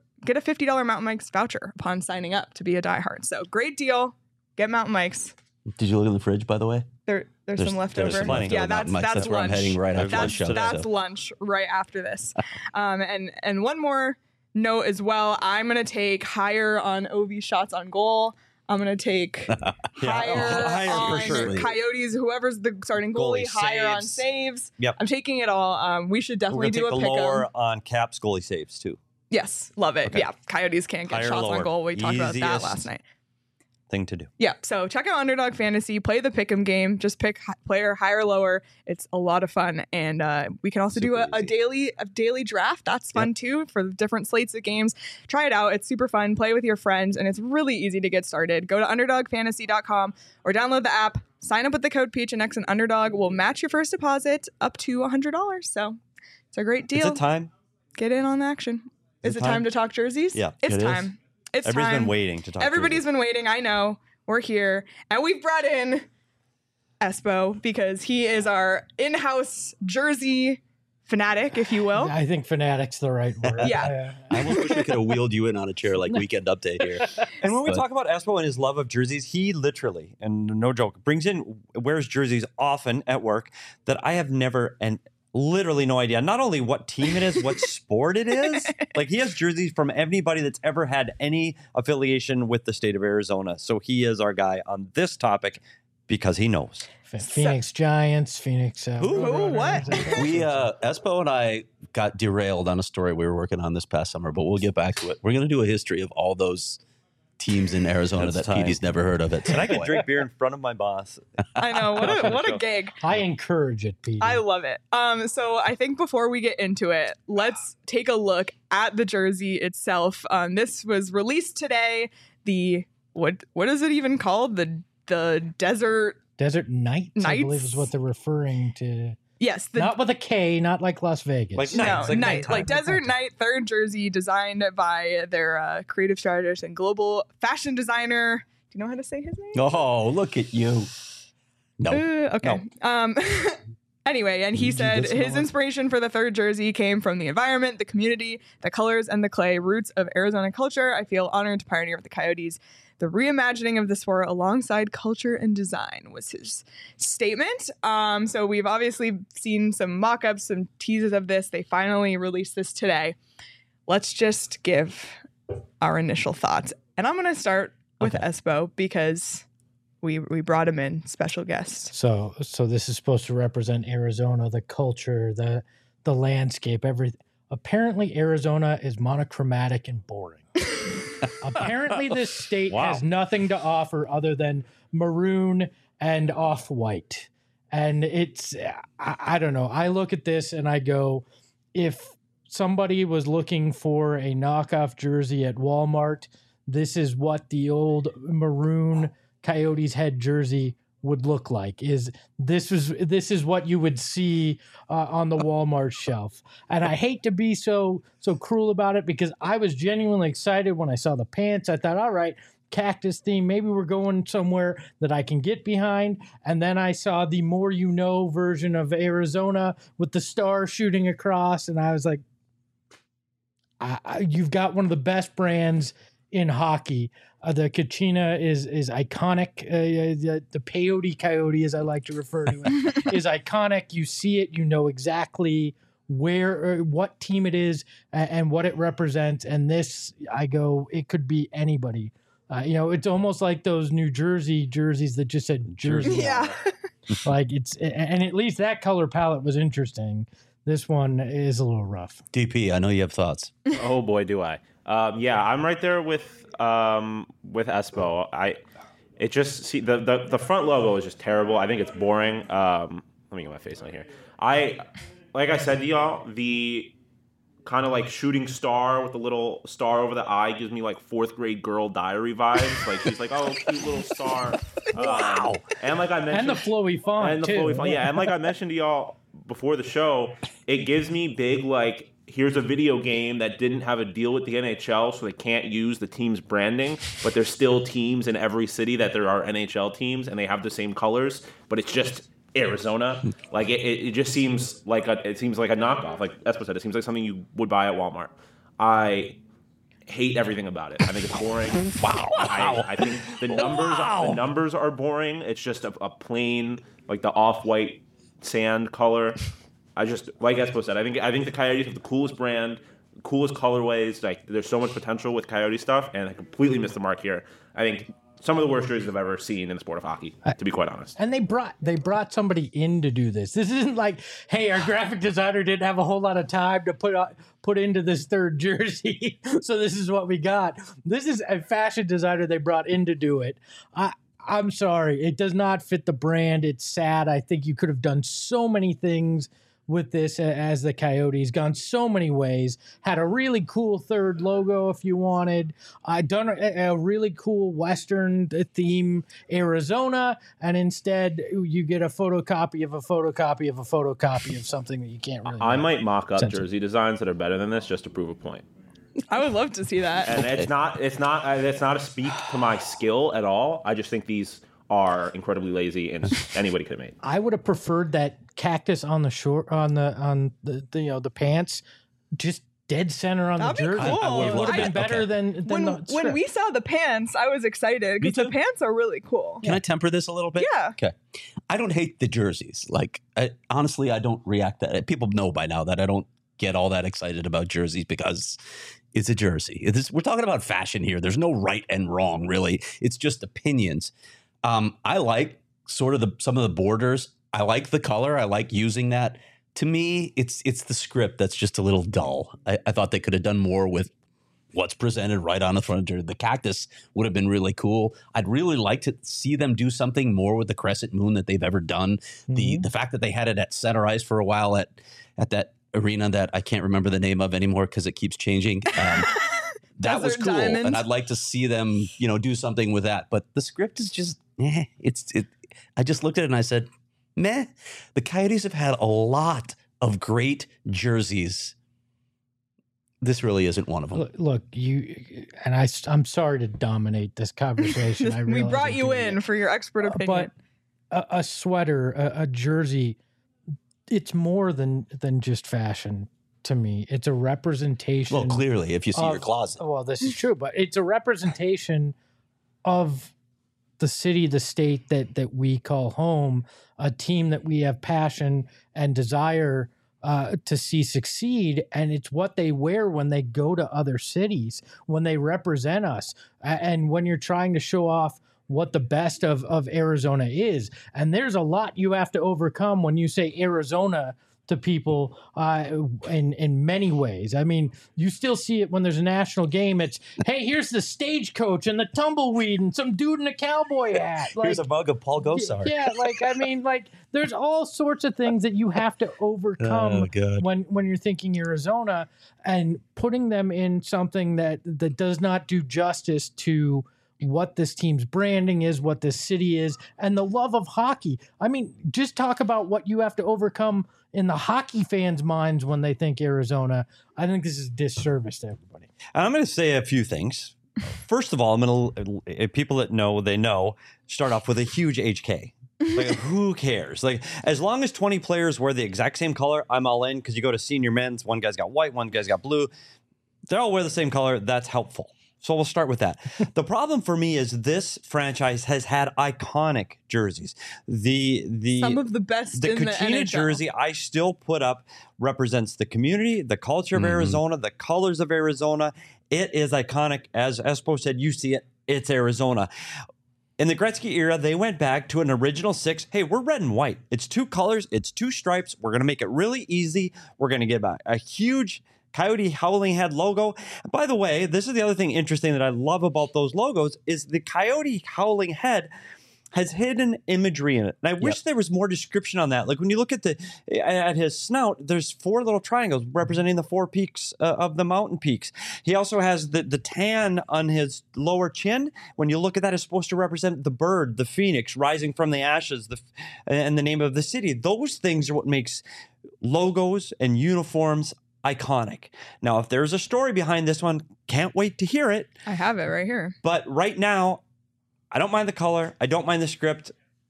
$50 Mountain Mike's voucher upon signing up to be a diehard. So great deal. Get Mountain Mike's.
Did you look in the fridge, by the way?
There's some leftover.
Some plenty.
Yeah, that's
lunch.
where
I'm heading right after the show.
That's lunch right after this. And one more note as well. I'm going to take higher on Ovi shots on goal. I'm going to take higher on
for sure.
Coyotes, whoever's the starting goalie, higher on saves.
Yep.
I'm taking it all. We should definitely do a pick 'em.
Lower on Caps goalie saves too.
Yes, love it.
Okay.
Yeah, Coyotes can't get
Higher,
shots
lower.
on goal. We talked about that
Easiest
last night.
Thing to do.
Yeah, so check out Underdog Fantasy, play the pick'em game, just pick player higher, lower. It's a lot of fun, and we can also do a daily draft. That's fun too for the different slates of games. Try it out; it's super fun. Play with your friends, and it's really easy to get started. Go to UnderdogFantasy.com or download the app. Sign up with the code PHNX, and Underdog will match your first deposit up to $100. So it's a great deal.
Is it time?
Get in on the action. Is it time to talk jerseys?
Yeah,
it's
it
time.
Is.
It's
Everybody's
time.
been waiting to talk.
Everybody's been waiting. I know. We're here. And we've brought in Espo because he is our in-house jersey fanatic, if you will.
I think fanatic's the right word.
Yeah.
I almost wish we could have wheeled you in on a chair like Weekend Update here.
And when we talk about Espo and his love of jerseys, he literally, and no joke, wears jerseys often at work that I have never and literally no idea. Not only what team it is, what sport it is. Like he has jerseys from anybody that's ever had any affiliation with the state of Arizona. So he is our guy on this topic because he knows.
Phoenix Giants, Phoenix.
Who? What?
We, Espo and I got derailed on a story we were working on this past summer, but we'll get back to it. We're going to do a history of all those teams in Arizona that Petey's never heard of it.
And I can drink beer in front of my boss.
I know. What a gig.
I encourage it, Petey.
I love it. So I think before we get into it, let's take a look at the jersey itself. This was released today. The what is it even called? The Desert
Knights, I believe is what they're referring to.
Yes.
Not with a K, not like Las Vegas.
Like
Knight. Like Desert Knight, third jersey designed by their creative strategist and global fashion designer. Do you know how to say his name?
Oh, look at you. No.
Okay.
No.
Anyway, and he said his inspiration for the third jersey came from the environment, the community, the colors, and the clay roots of Arizona culture. I feel honored to pioneer with the Coyotes. The reimagining of the sport alongside culture and design was his statement. So we've obviously seen some mock-ups, some teases of this. They finally released this today. Let's just give our initial thoughts. And I'm going to start with Espo because we brought him in, special guest.
So this is supposed to represent Arizona, the culture, the landscape, everything. Apparently, Arizona is monochromatic and boring. Apparently, this state has nothing to offer other than maroon and off-white. And it's, I don't know. I look at this and I go, if somebody was looking for a knockoff jersey at Walmart, this is what the old maroon Coyotes head jersey would look like. This is what you would see on the Walmart shelf. And I hate to be so cruel about it because I was genuinely excited when I saw the pants. I thought, all right, cactus theme, maybe we're going somewhere that I can get behind. And then I saw the more you know version of Arizona with the star shooting across, and I was like, you've got one of the best brands in hockey. The Kachina is iconic. The Peyote Coyote, as I like to refer to it, is iconic. You see it, you know exactly what team it is and what it represents. And this, I go, it could be anybody. It's almost like those New Jersey jerseys that just said Jersey.
Yeah.
Like and at least that color palette was interesting. This one is a little rough.
DP, I know you have thoughts.
Oh boy, do I. Yeah, I'm right there with Espo. It just the front logo is just terrible. I think it's boring. Let me get my face on here. Like I said to y'all, the kind of like shooting star with the little star over the eye gives me like fourth grade girl diary vibes. Like she's like, oh, cute little star. Wow. And like I mentioned,
and the flowy font too.
Yeah, and like I mentioned to y'all before the show, it gives me big like, here's a video game that didn't have a deal with the NHL, so they can't use the team's branding, but there's still teams in every city that there are NHL teams, and they have the same colors, but it's just Arizona. Like it just seems like a knockoff. Like Espo said, it seems like something you would buy at Walmart. I hate everything about it. I think it's boring. Wow. I think the numbers are boring. It's just a plain, like the off-white sand color. I just, like Espo said, I think the Coyotes have the coolest brand, coolest colorways. Like there's so much potential with Coyote stuff, and I completely missed the mark here. I think some of the worst jerseys I've ever seen in the sport of hockey, to be quite honest.
And they brought somebody in to do this. This isn't like, hey, our graphic designer didn't have a whole lot of time to put into this third jersey, so this is what we got. This is a fashion designer they brought in to do it. I'm sorry, it does not fit the brand. It's sad. I think you could have done so many things with this as the Coyotes, gone so many ways, had a really cool third logo if you wanted, done a really cool Western theme Arizona, and instead you get a photocopy of a photocopy of a photocopy of something that you can't really
I might mock up jersey designs that are better than this just to prove a point.
I would love to see that.
And it's not a speak to my skill at all. I just think these are incredibly lazy and anybody could have made.
I would have preferred that cactus on the short on the pants, just dead center on
That'd
the jersey.
be cool.
It would have been better than
when we saw the pants, I was excited because the pants are really cool.
Can I temper this a little bit?
Yeah.
Okay. I don't hate the jerseys. Like, honestly, I don't react that. People know by now that I don't get all that excited about jerseys because it's a jersey. We're talking about fashion here. There's no right and wrong, really. It's just opinions. I like sort of some of the borders. I like the color. I like using that. To me, it's the script that's just a little dull. I thought they could have done more with what's presented right on the front. The cactus would have been really cool. I'd really like to see them do something more with the crescent moon that they've ever done. Mm-hmm. The fact that they had it at center ice for a while at that arena that I can't remember the name of anymore because it keeps changing. That was cool, Diamond. And I'd like to see them, do something with that. But the script is just, I just looked at it and I said, meh. The Coyotes have had a lot of great jerseys. This really isn't one of them.
Look, I'm sorry to dominate this conversation.
We brought you in for your expert opinion.
But a sweater, a jersey, it's more than just fashion. To me, it's a representation.
Well, clearly, if you see your closet.
Well, this is true, but it's a representation of the city, the state that we call home, a team that we have passion and desire to see succeed, and it's what they wear when they go to other cities, when they represent us, and when you're trying to show off what the best of Arizona is. And there's a lot you have to overcome when you say Arizona to people in many ways. I mean, you still see it when there's a national game. It's, hey, here's the stagecoach and the tumbleweed and some dude in a cowboy hat.
Here's a mug of Paul Gosar.
Yeah, there's all sorts of things that you have to overcome when you're thinking Arizona, and putting them in something that does not do justice to what this team's branding is, what this city is, and the love of hockey. I mean, just talk about what you have to overcome in the hockey fans' minds when they think Arizona. I think this is a disservice to everybody.
I'm going to say a few things. First of all, I'm going to, people that know, they know, start off with a huge HK. Like, who cares? Like, as long as 20 players wear the exact same color, I'm all in, because you go to senior men's, one guy's got white, one guy's got blue. They all wear the same color. That's helpful. So we'll start with that. The problem for me is this franchise has had iconic jerseys.
Some of the best
the
in the
Kachina
NHL.
jersey I still put up represents the community, the culture of Arizona, the colors of Arizona. It is iconic. As Espo said, you see it, it's Arizona. In the Gretzky era, they went back to an original 6. Hey, we're red and white. It's 2 colors. It's 2 stripes. We're going to make it really easy. We're going to get a huge Coyote Howling Head logo. And by the way, this is the other thing interesting that I love about those logos is the Coyote Howling Head has hidden imagery in it. And I wish there was more description on that. Like when you look at his snout, there's 4 little triangles representing the 4 peaks of the mountain peaks. He also has the tan on his lower chin. When you look at that, it's supposed to represent the bird, the phoenix rising from the ashes, and the name of the city. Those things are what makes logos and uniforms iconic. Now, if there's a story behind this one, can't wait to hear it.
I have it right here.
But right now, I don't mind the color. I don't mind the script.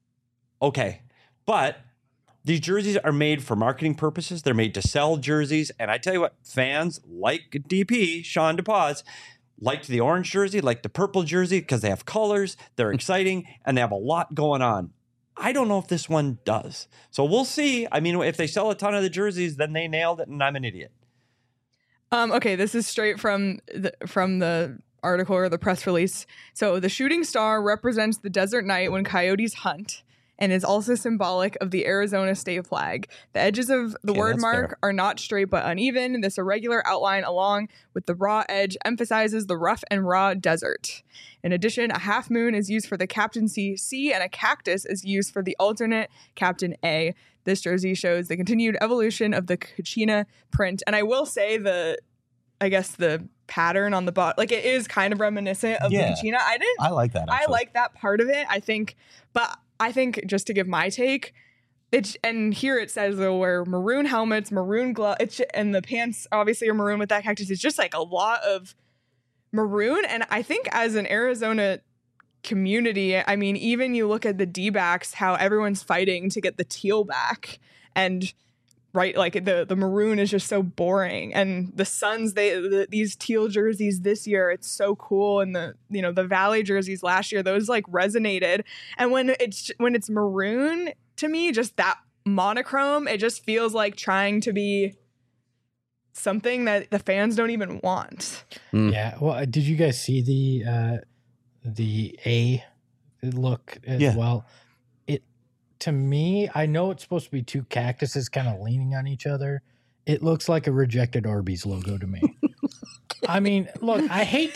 Okay. But these jerseys are made for marketing purposes. They're made to sell jerseys. And I tell you what, fans like DP, Sean DePaz, liked the orange jersey, liked the purple jersey because they have colors, they're exciting, and they have a lot going on. I don't know if this one does. So we'll see. I mean, if they sell a ton of the jerseys, then they nailed it and I'm an idiot.
Okay, this is straight from the article or the press release. So the shooting star represents the desert night when coyotes hunt and is also symbolic of the Arizona state flag. The edges of the word mark are not straight but uneven. This irregular outline along with the raw edge emphasizes the rough and raw desert. In addition, a half moon is used for the captaincy C and a cactus is used for the alternate captain A. This jersey shows the continued evolution of the Kachina print. And I will say the pattern on the bottom, like it is kind of reminiscent of the Kachina.
I like that.
Actually. I like that part of it. I think just to give my take, and here it says they'll wear maroon helmets, maroon gloves, and the pants obviously are maroon with that cactus. It's just like a lot of maroon. And I think as an Arizona community, I mean, even you look at the D-backs, how everyone's fighting to get the teal back, and right, like the maroon is just so boring. And the Suns, these teal jerseys this year, it's so cool. And the Valley jerseys last year, those like resonated. And when it's maroon, to me, just that monochrome, it just feels like trying to be something that the fans don't even want.
Yeah. Well, did you guys see the A look as well? To me, I know it's supposed to be two cactuses kind of leaning on each other. It looks like a rejected Arby's logo to me. I mean, look, I hate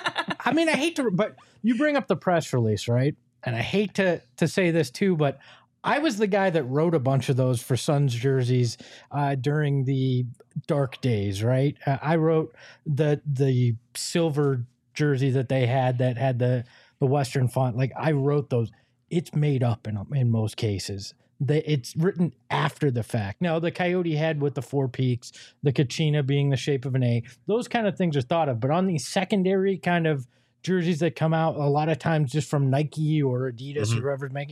to, but you bring up the press release, right? And I hate to say this too, but I was the guy that wrote a bunch of those for Suns jerseys during the dark days, right? I wrote the silver jersey that they had that had the Western font. Like I wrote those. It's made up in most cases. It's written after the fact. Now, the coyote head with the four peaks, the Kachina being the shape of an A, those kind of things are thought of. But on these secondary kind of jerseys that come out a lot of times just from Nike or Adidas or whoever's making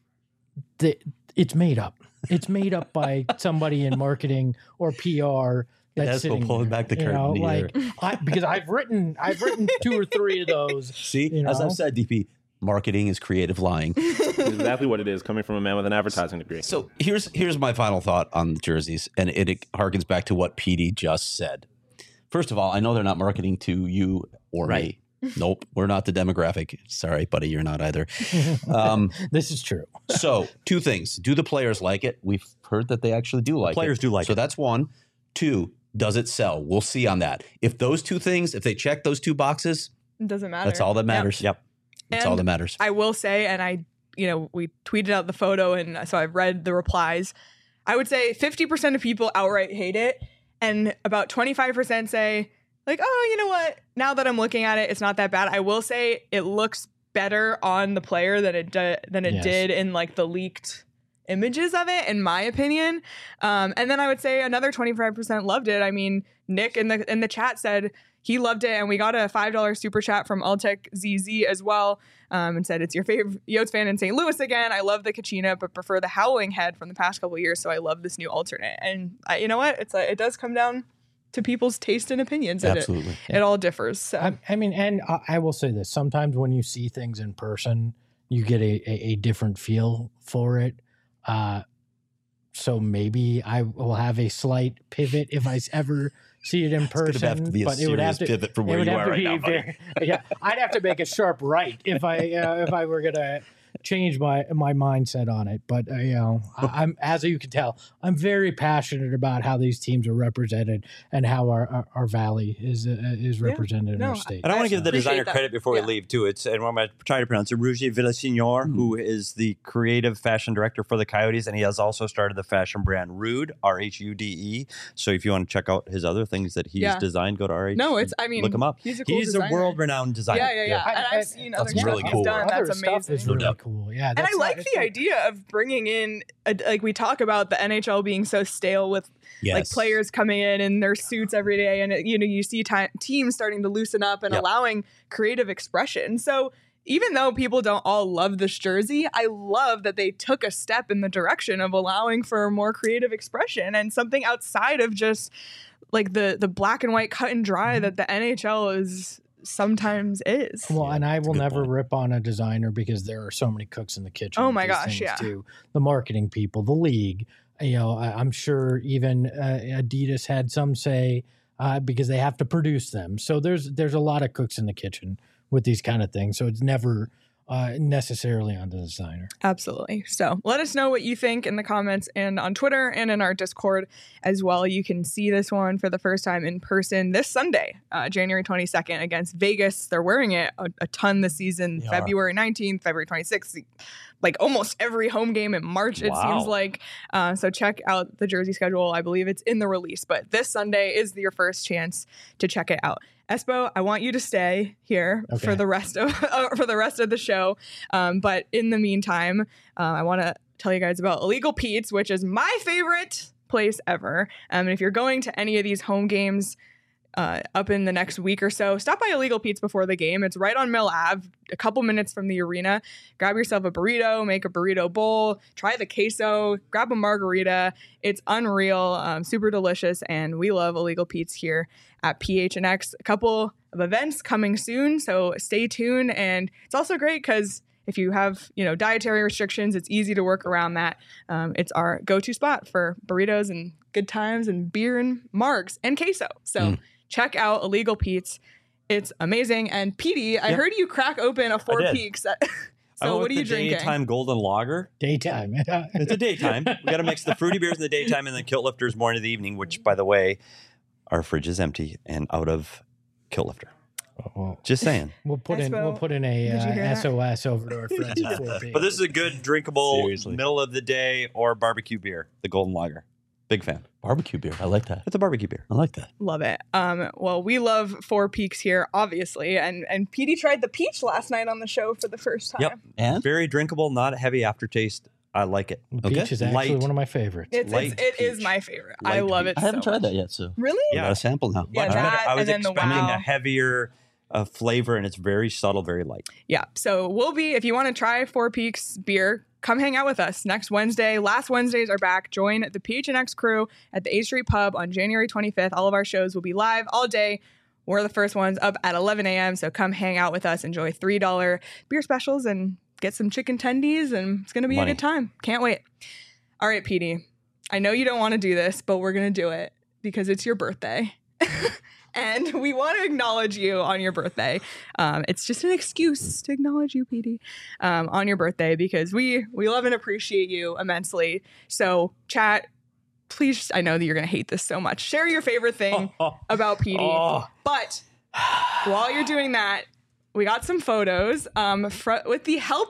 it's made up. It's made up by somebody in marketing or PR. That's
pulling back the curtain.
Because I've written 2 or 3 of those.
See, as I've said, DP, marketing is creative lying.
Exactly what it is, coming from a man with an advertising degree.
So here's my final thought on the jerseys, and it harkens back to what PD just said. First of all, I know they're not marketing to you or me. Nope, we're not the demographic. Sorry, buddy, you're not either.
This is true.
So 2 things. Do the players like it? We've heard that they actually do like it.
Players do like it.
So that's 1. 2, does it sell? We'll see on that. If those 2 things, if they check those 2 boxes,
it doesn't matter.
That's all that matters.
Yep.
That's all that matters.
I will say, and we tweeted out the photo, and so I've read the replies. I would say 50% of people outright hate it, and about 25% say, like, oh, you know what? Now that I'm looking at it, it's not that bad. I will say it looks better on the player than it did in like the leaked images of it, in my opinion. And then I would say another 25% loved it. I mean, Nick in the chat said he loved it, and we got a $5 super chat from Altec ZZ as well, and said it's your favorite Yotes fan in St. Louis again. I love the Kachina, but prefer the Howling Head from the past couple of years, so I love this new alternate. And you know what? It does come down to people's taste and opinions.
Absolutely.
It all differs. So.
I mean, and I will say this. Sometimes when you see things in person, you get a different feel for it. So maybe I will have a slight pivot if I ever see it in person.
Have to be a serious pivot from where you are right now, buddy.
I'd have to make a sharp right if I were gonna change my mindset on it. But I'm, as you can tell, I'm very passionate about how these teams are represented and how our valley is represented in our state.
And I want to give the designer credit before we leave too. And I'm going to try to pronounce it, Roger Villaseñor, who is the creative fashion director for the Coyotes, and he has also started the fashion brand Rude, RHUDE. So if you want to check out his other things that he's designed, go to RH.
No, look
him up.
He's
a world-renowned designer.
Yeah. And I've seen other stuff
really cool.
he's done. That's amazing.
Is really cool. Yeah,
and I like the idea of bringing in, like we talk about the NHL being so stale with like players coming in their suits every day, and you see teams starting to loosen up and allowing creative expression. So even though people don't all love this jersey, I love that they took a step in the direction of allowing for more creative expression and something outside of just like the black and white cut and dry that the NHL is sometimes is.
Well, and I will never rip on a designer because there are so many cooks in the kitchen.
Oh my gosh,
too. The marketing people, the league. I'm sure even Adidas had some say because they have to produce them. So there's a lot of cooks in the kitchen with these kind of things. So it's never necessarily on the designer.
Absolutely. So let us know what you think in the comments and on Twitter and in our Discord as well. You can see this one for the first time in person this Sunday, January 22nd against Vegas. They're wearing it a ton this season, February 19th, February 26th, like almost every home game in March, it seems like. So check out the jersey schedule. I believe it's in the release, but this Sunday is your first chance to check it out. Espo, I want you to stay here for the rest of the show. But in the meantime, I want to tell you guys about Illegal Pete's, which is my favorite place ever. And if you're going to any of these home games up in the next week or so, stop by Illegal Pete's before the game. It's right on Mill Ave, a couple minutes from the arena. Grab yourself a burrito, make a burrito bowl, try the queso, grab a margarita. It's unreal, super delicious, and we love Illegal Pete's here at PHNX. A couple of events coming soon, so stay tuned. And it's also great because if you have, dietary restrictions, it's easy to work around that. It's our go-to spot for burritos and good times and beer and margs and queso. So check out Illegal Pete's. It's amazing. And Petey, I heard you crack open a Four Peaks. So what are you drinking?
Daytime Golden Lager.
Daytime.
It's a daytime. We got to mix the fruity beers in the daytime and then Kilt Lifters more into the evening, which, by the way, our fridge is empty and out of Kilt Lifter.
Oh.
Just saying.
We'll put in a SOS over to our friends at 4 p.m.
But this is a good drinkable middle of the day or barbecue beer, the Golden Lager. Big fan.
Barbecue beer. I like that.
It's a barbecue beer.
I like that.
Love it. Well, we love Four Peaks here, obviously. And Petey tried the peach last night on the show for the first time.
Yep.
And?
Very drinkable, not a heavy aftertaste. I like it.
Peach is actually one of my favorites.
It is my favorite. I love it.
I haven't tried that yet, so
really?
I got a sample now.
Yeah,
I was
and then
expecting
the
a heavier flavor, and it's very subtle, very light.
Yeah. So if you want to try Four Peaks beer, come hang out with us next Wednesday. Last Wednesdays are back. Join the PHNX crew at the A Street Pub on January 25th. All of our shows will be live all day. We're the first ones up at 11 a.m. So come hang out with us. Enjoy $3 beer specials and get some chicken tendies, and it's going to be a good time. Can't wait. All right, Petey. I know you don't want to do this, but we're going to do it because it's your birthday. And we want to acknowledge you on your birthday. It's just an excuse to acknowledge you, Petey, on your birthday because we love and appreciate you immensely. So, chat, please, I know that you're going to hate this so much. Share your favorite thing about Petey. But while you're doing that, we got some photos with the help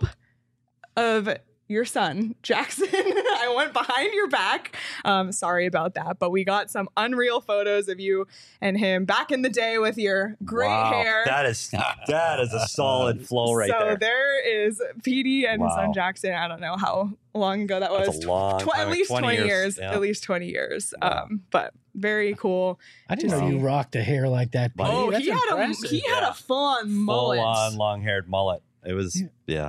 of your son, Jackson. I went behind your back. Sorry about that, but we got some unreal photos of you and him back in the day with your great hair.
That is a solid flow right there.
So there is Petey and his son Jackson. I don't know how long ago that was.
That's a long time,
at least 20 years.
Yeah.
At least 20 years. But very cool.
I didn't know you rocked a hair like that, Petey.
Oh,
That's
he had a full-on mullet.
Full-on long-haired mullet. It was,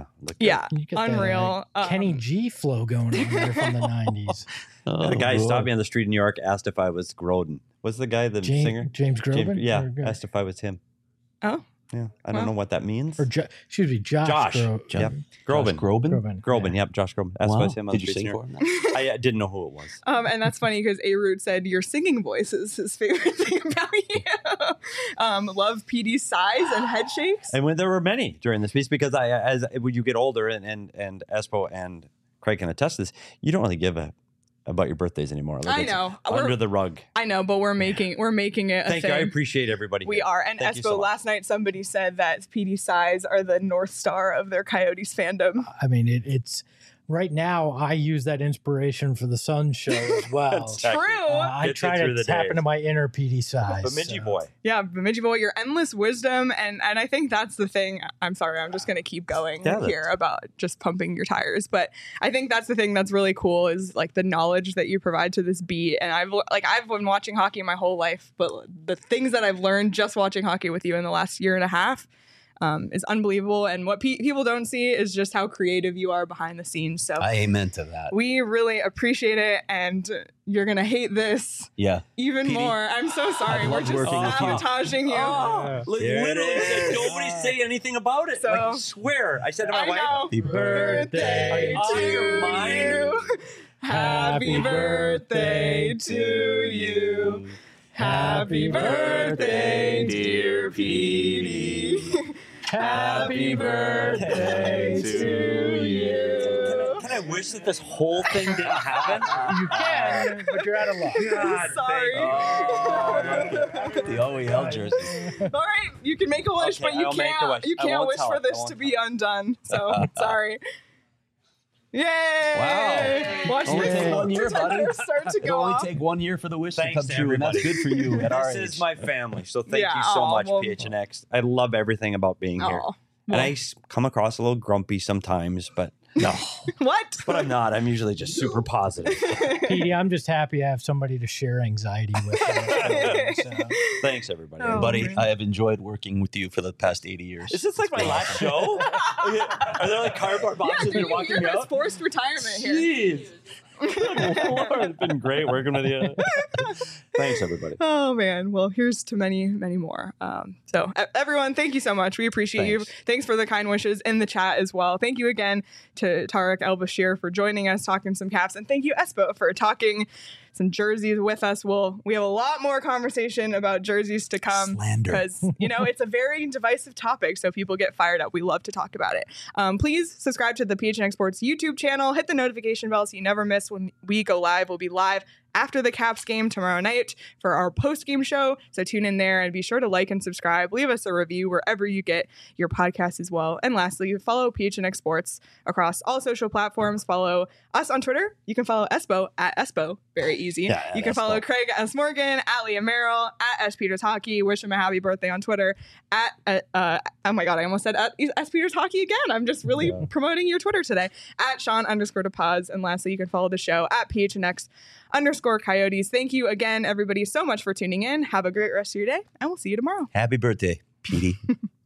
unreal.
Kenny G flow going on there from the 90s.
The guy stopped me on the street in New York, asked if I was Grodin. What's the guy, the singer?
James Groban?
Asked if I was him.
Oh.
Yeah, I don't know what that means.
Or Josh.
Yep. Groban. Yep, Josh Groban. That's why I was him on
Did
the
you
street.
sing for him?
I didn't know who it was.
And that's funny because A-Root said your singing voice is his favorite thing about you. Love Petey's size and head shakes.
And when there were many during this piece, because when you get older, and Espo and Craig can attest to this, you don't really give about your birthdays anymore.
I know.
Under the rug.
I know, but we're making it a
Thank
thing.
you. I appreciate everybody.
We are. And Espo, last night somebody said that Petey's size are the North Star of their Coyotes fandom.
I mean, it's right now I use that inspiration for the Sun show as well.
True.
I try to tap into my inner Petey size.
Bemidji boy.
Yeah, Bemidji boy, your endless wisdom. And I think that's the thing. I'm sorry, I'm just going to keep going here about just pumping your tires. But I think that's the thing that's really cool is like the knowledge that you provide to this beat. And I've been watching hockey my whole life, but the things that I've learned just watching hockey with you in the last year and a half is unbelievable. And what people don't see is just how creative you are behind the scenes. So
I amen to that.
We really appreciate it. And you're going to hate this even more. I'm so sorry. We're just sabotaging you.
Literally, nobody say anything about it. So, I swear. I said to my wife,
Happy birthday to you. Happy birthday to you. Happy birthday, dear Petey. Happy birthday to you.
Can I wish that this whole thing didn't happen?
You can, but you're out of luck.
God,
Sorry.
The OEL jersey.
All right, you can make a wish,
Okay,
but you
I'll make the wish.
can't. You
I
can't
won't
wish
tell
for
it. I
this
won't
to be undone. So sorry. Yay!
Wow.
Watch
Only take 1 year, buddy.
Start to
It'll
go
only
off.
take 1 year for the wish
Thanks
to
to
come true, and that's
everybody.
good for you at our
This
age.
is my family, so thank
Yeah,
you so
aw,
much,
well-
PHNX. I love everything about being here.
Aw,
And I come across a little grumpy sometimes, but no.
what?
But I'm not. I'm usually just super positive.
Petey, I'm just happy I have somebody to share anxiety with.
Thanks, everybody.
Oh,
Buddy,
man.
I have enjoyed working with you for the past 80 years.
Is this like my last show? Are there like cardboard
Yeah,
boxes
dude,
you're walking
you're
me
his
out?
forced retirement here.
Jeez. Good Lord, it's been great working with you. Thanks, everybody.
Oh man, well here's to many, many more. So everyone, thank you so much. We appreciate you. Thanks for the kind wishes in the chat as well. Thank you again to Tarek El Bashir for joining us, talking some Caps, and thank you Espo for talking some jerseys with us. We have a lot more conversation about jerseys to come.
Slander.
Because it's a very divisive topic, so people get fired up. We love to talk about it. Please subscribe to the PHNX Sports YouTube channel. Hit the notification bell so you never miss when we go live. We'll be live after the Caps game tomorrow night for our post-game show. So tune in there and be sure to like and subscribe. Leave us a review wherever you get your podcast as well. And lastly, follow PHNX Sports across all social platforms. Follow us on Twitter. You can follow Espo at Espo. Very easy.
Yeah,
you can follow Craig S. Morgan, at Leah Merrill, at S. Peters Hockey. Wish him a happy birthday on Twitter. Oh my God, I almost said at S. Peters Hockey again. I'm just really promoting your Twitter today. At Sean_DePaz. And lastly, you can follow the show at PHNX_Coyotes. Thank you again, everybody, so much for tuning in. Have a great rest of your day, and we'll see you tomorrow.
Happy birthday, Petey.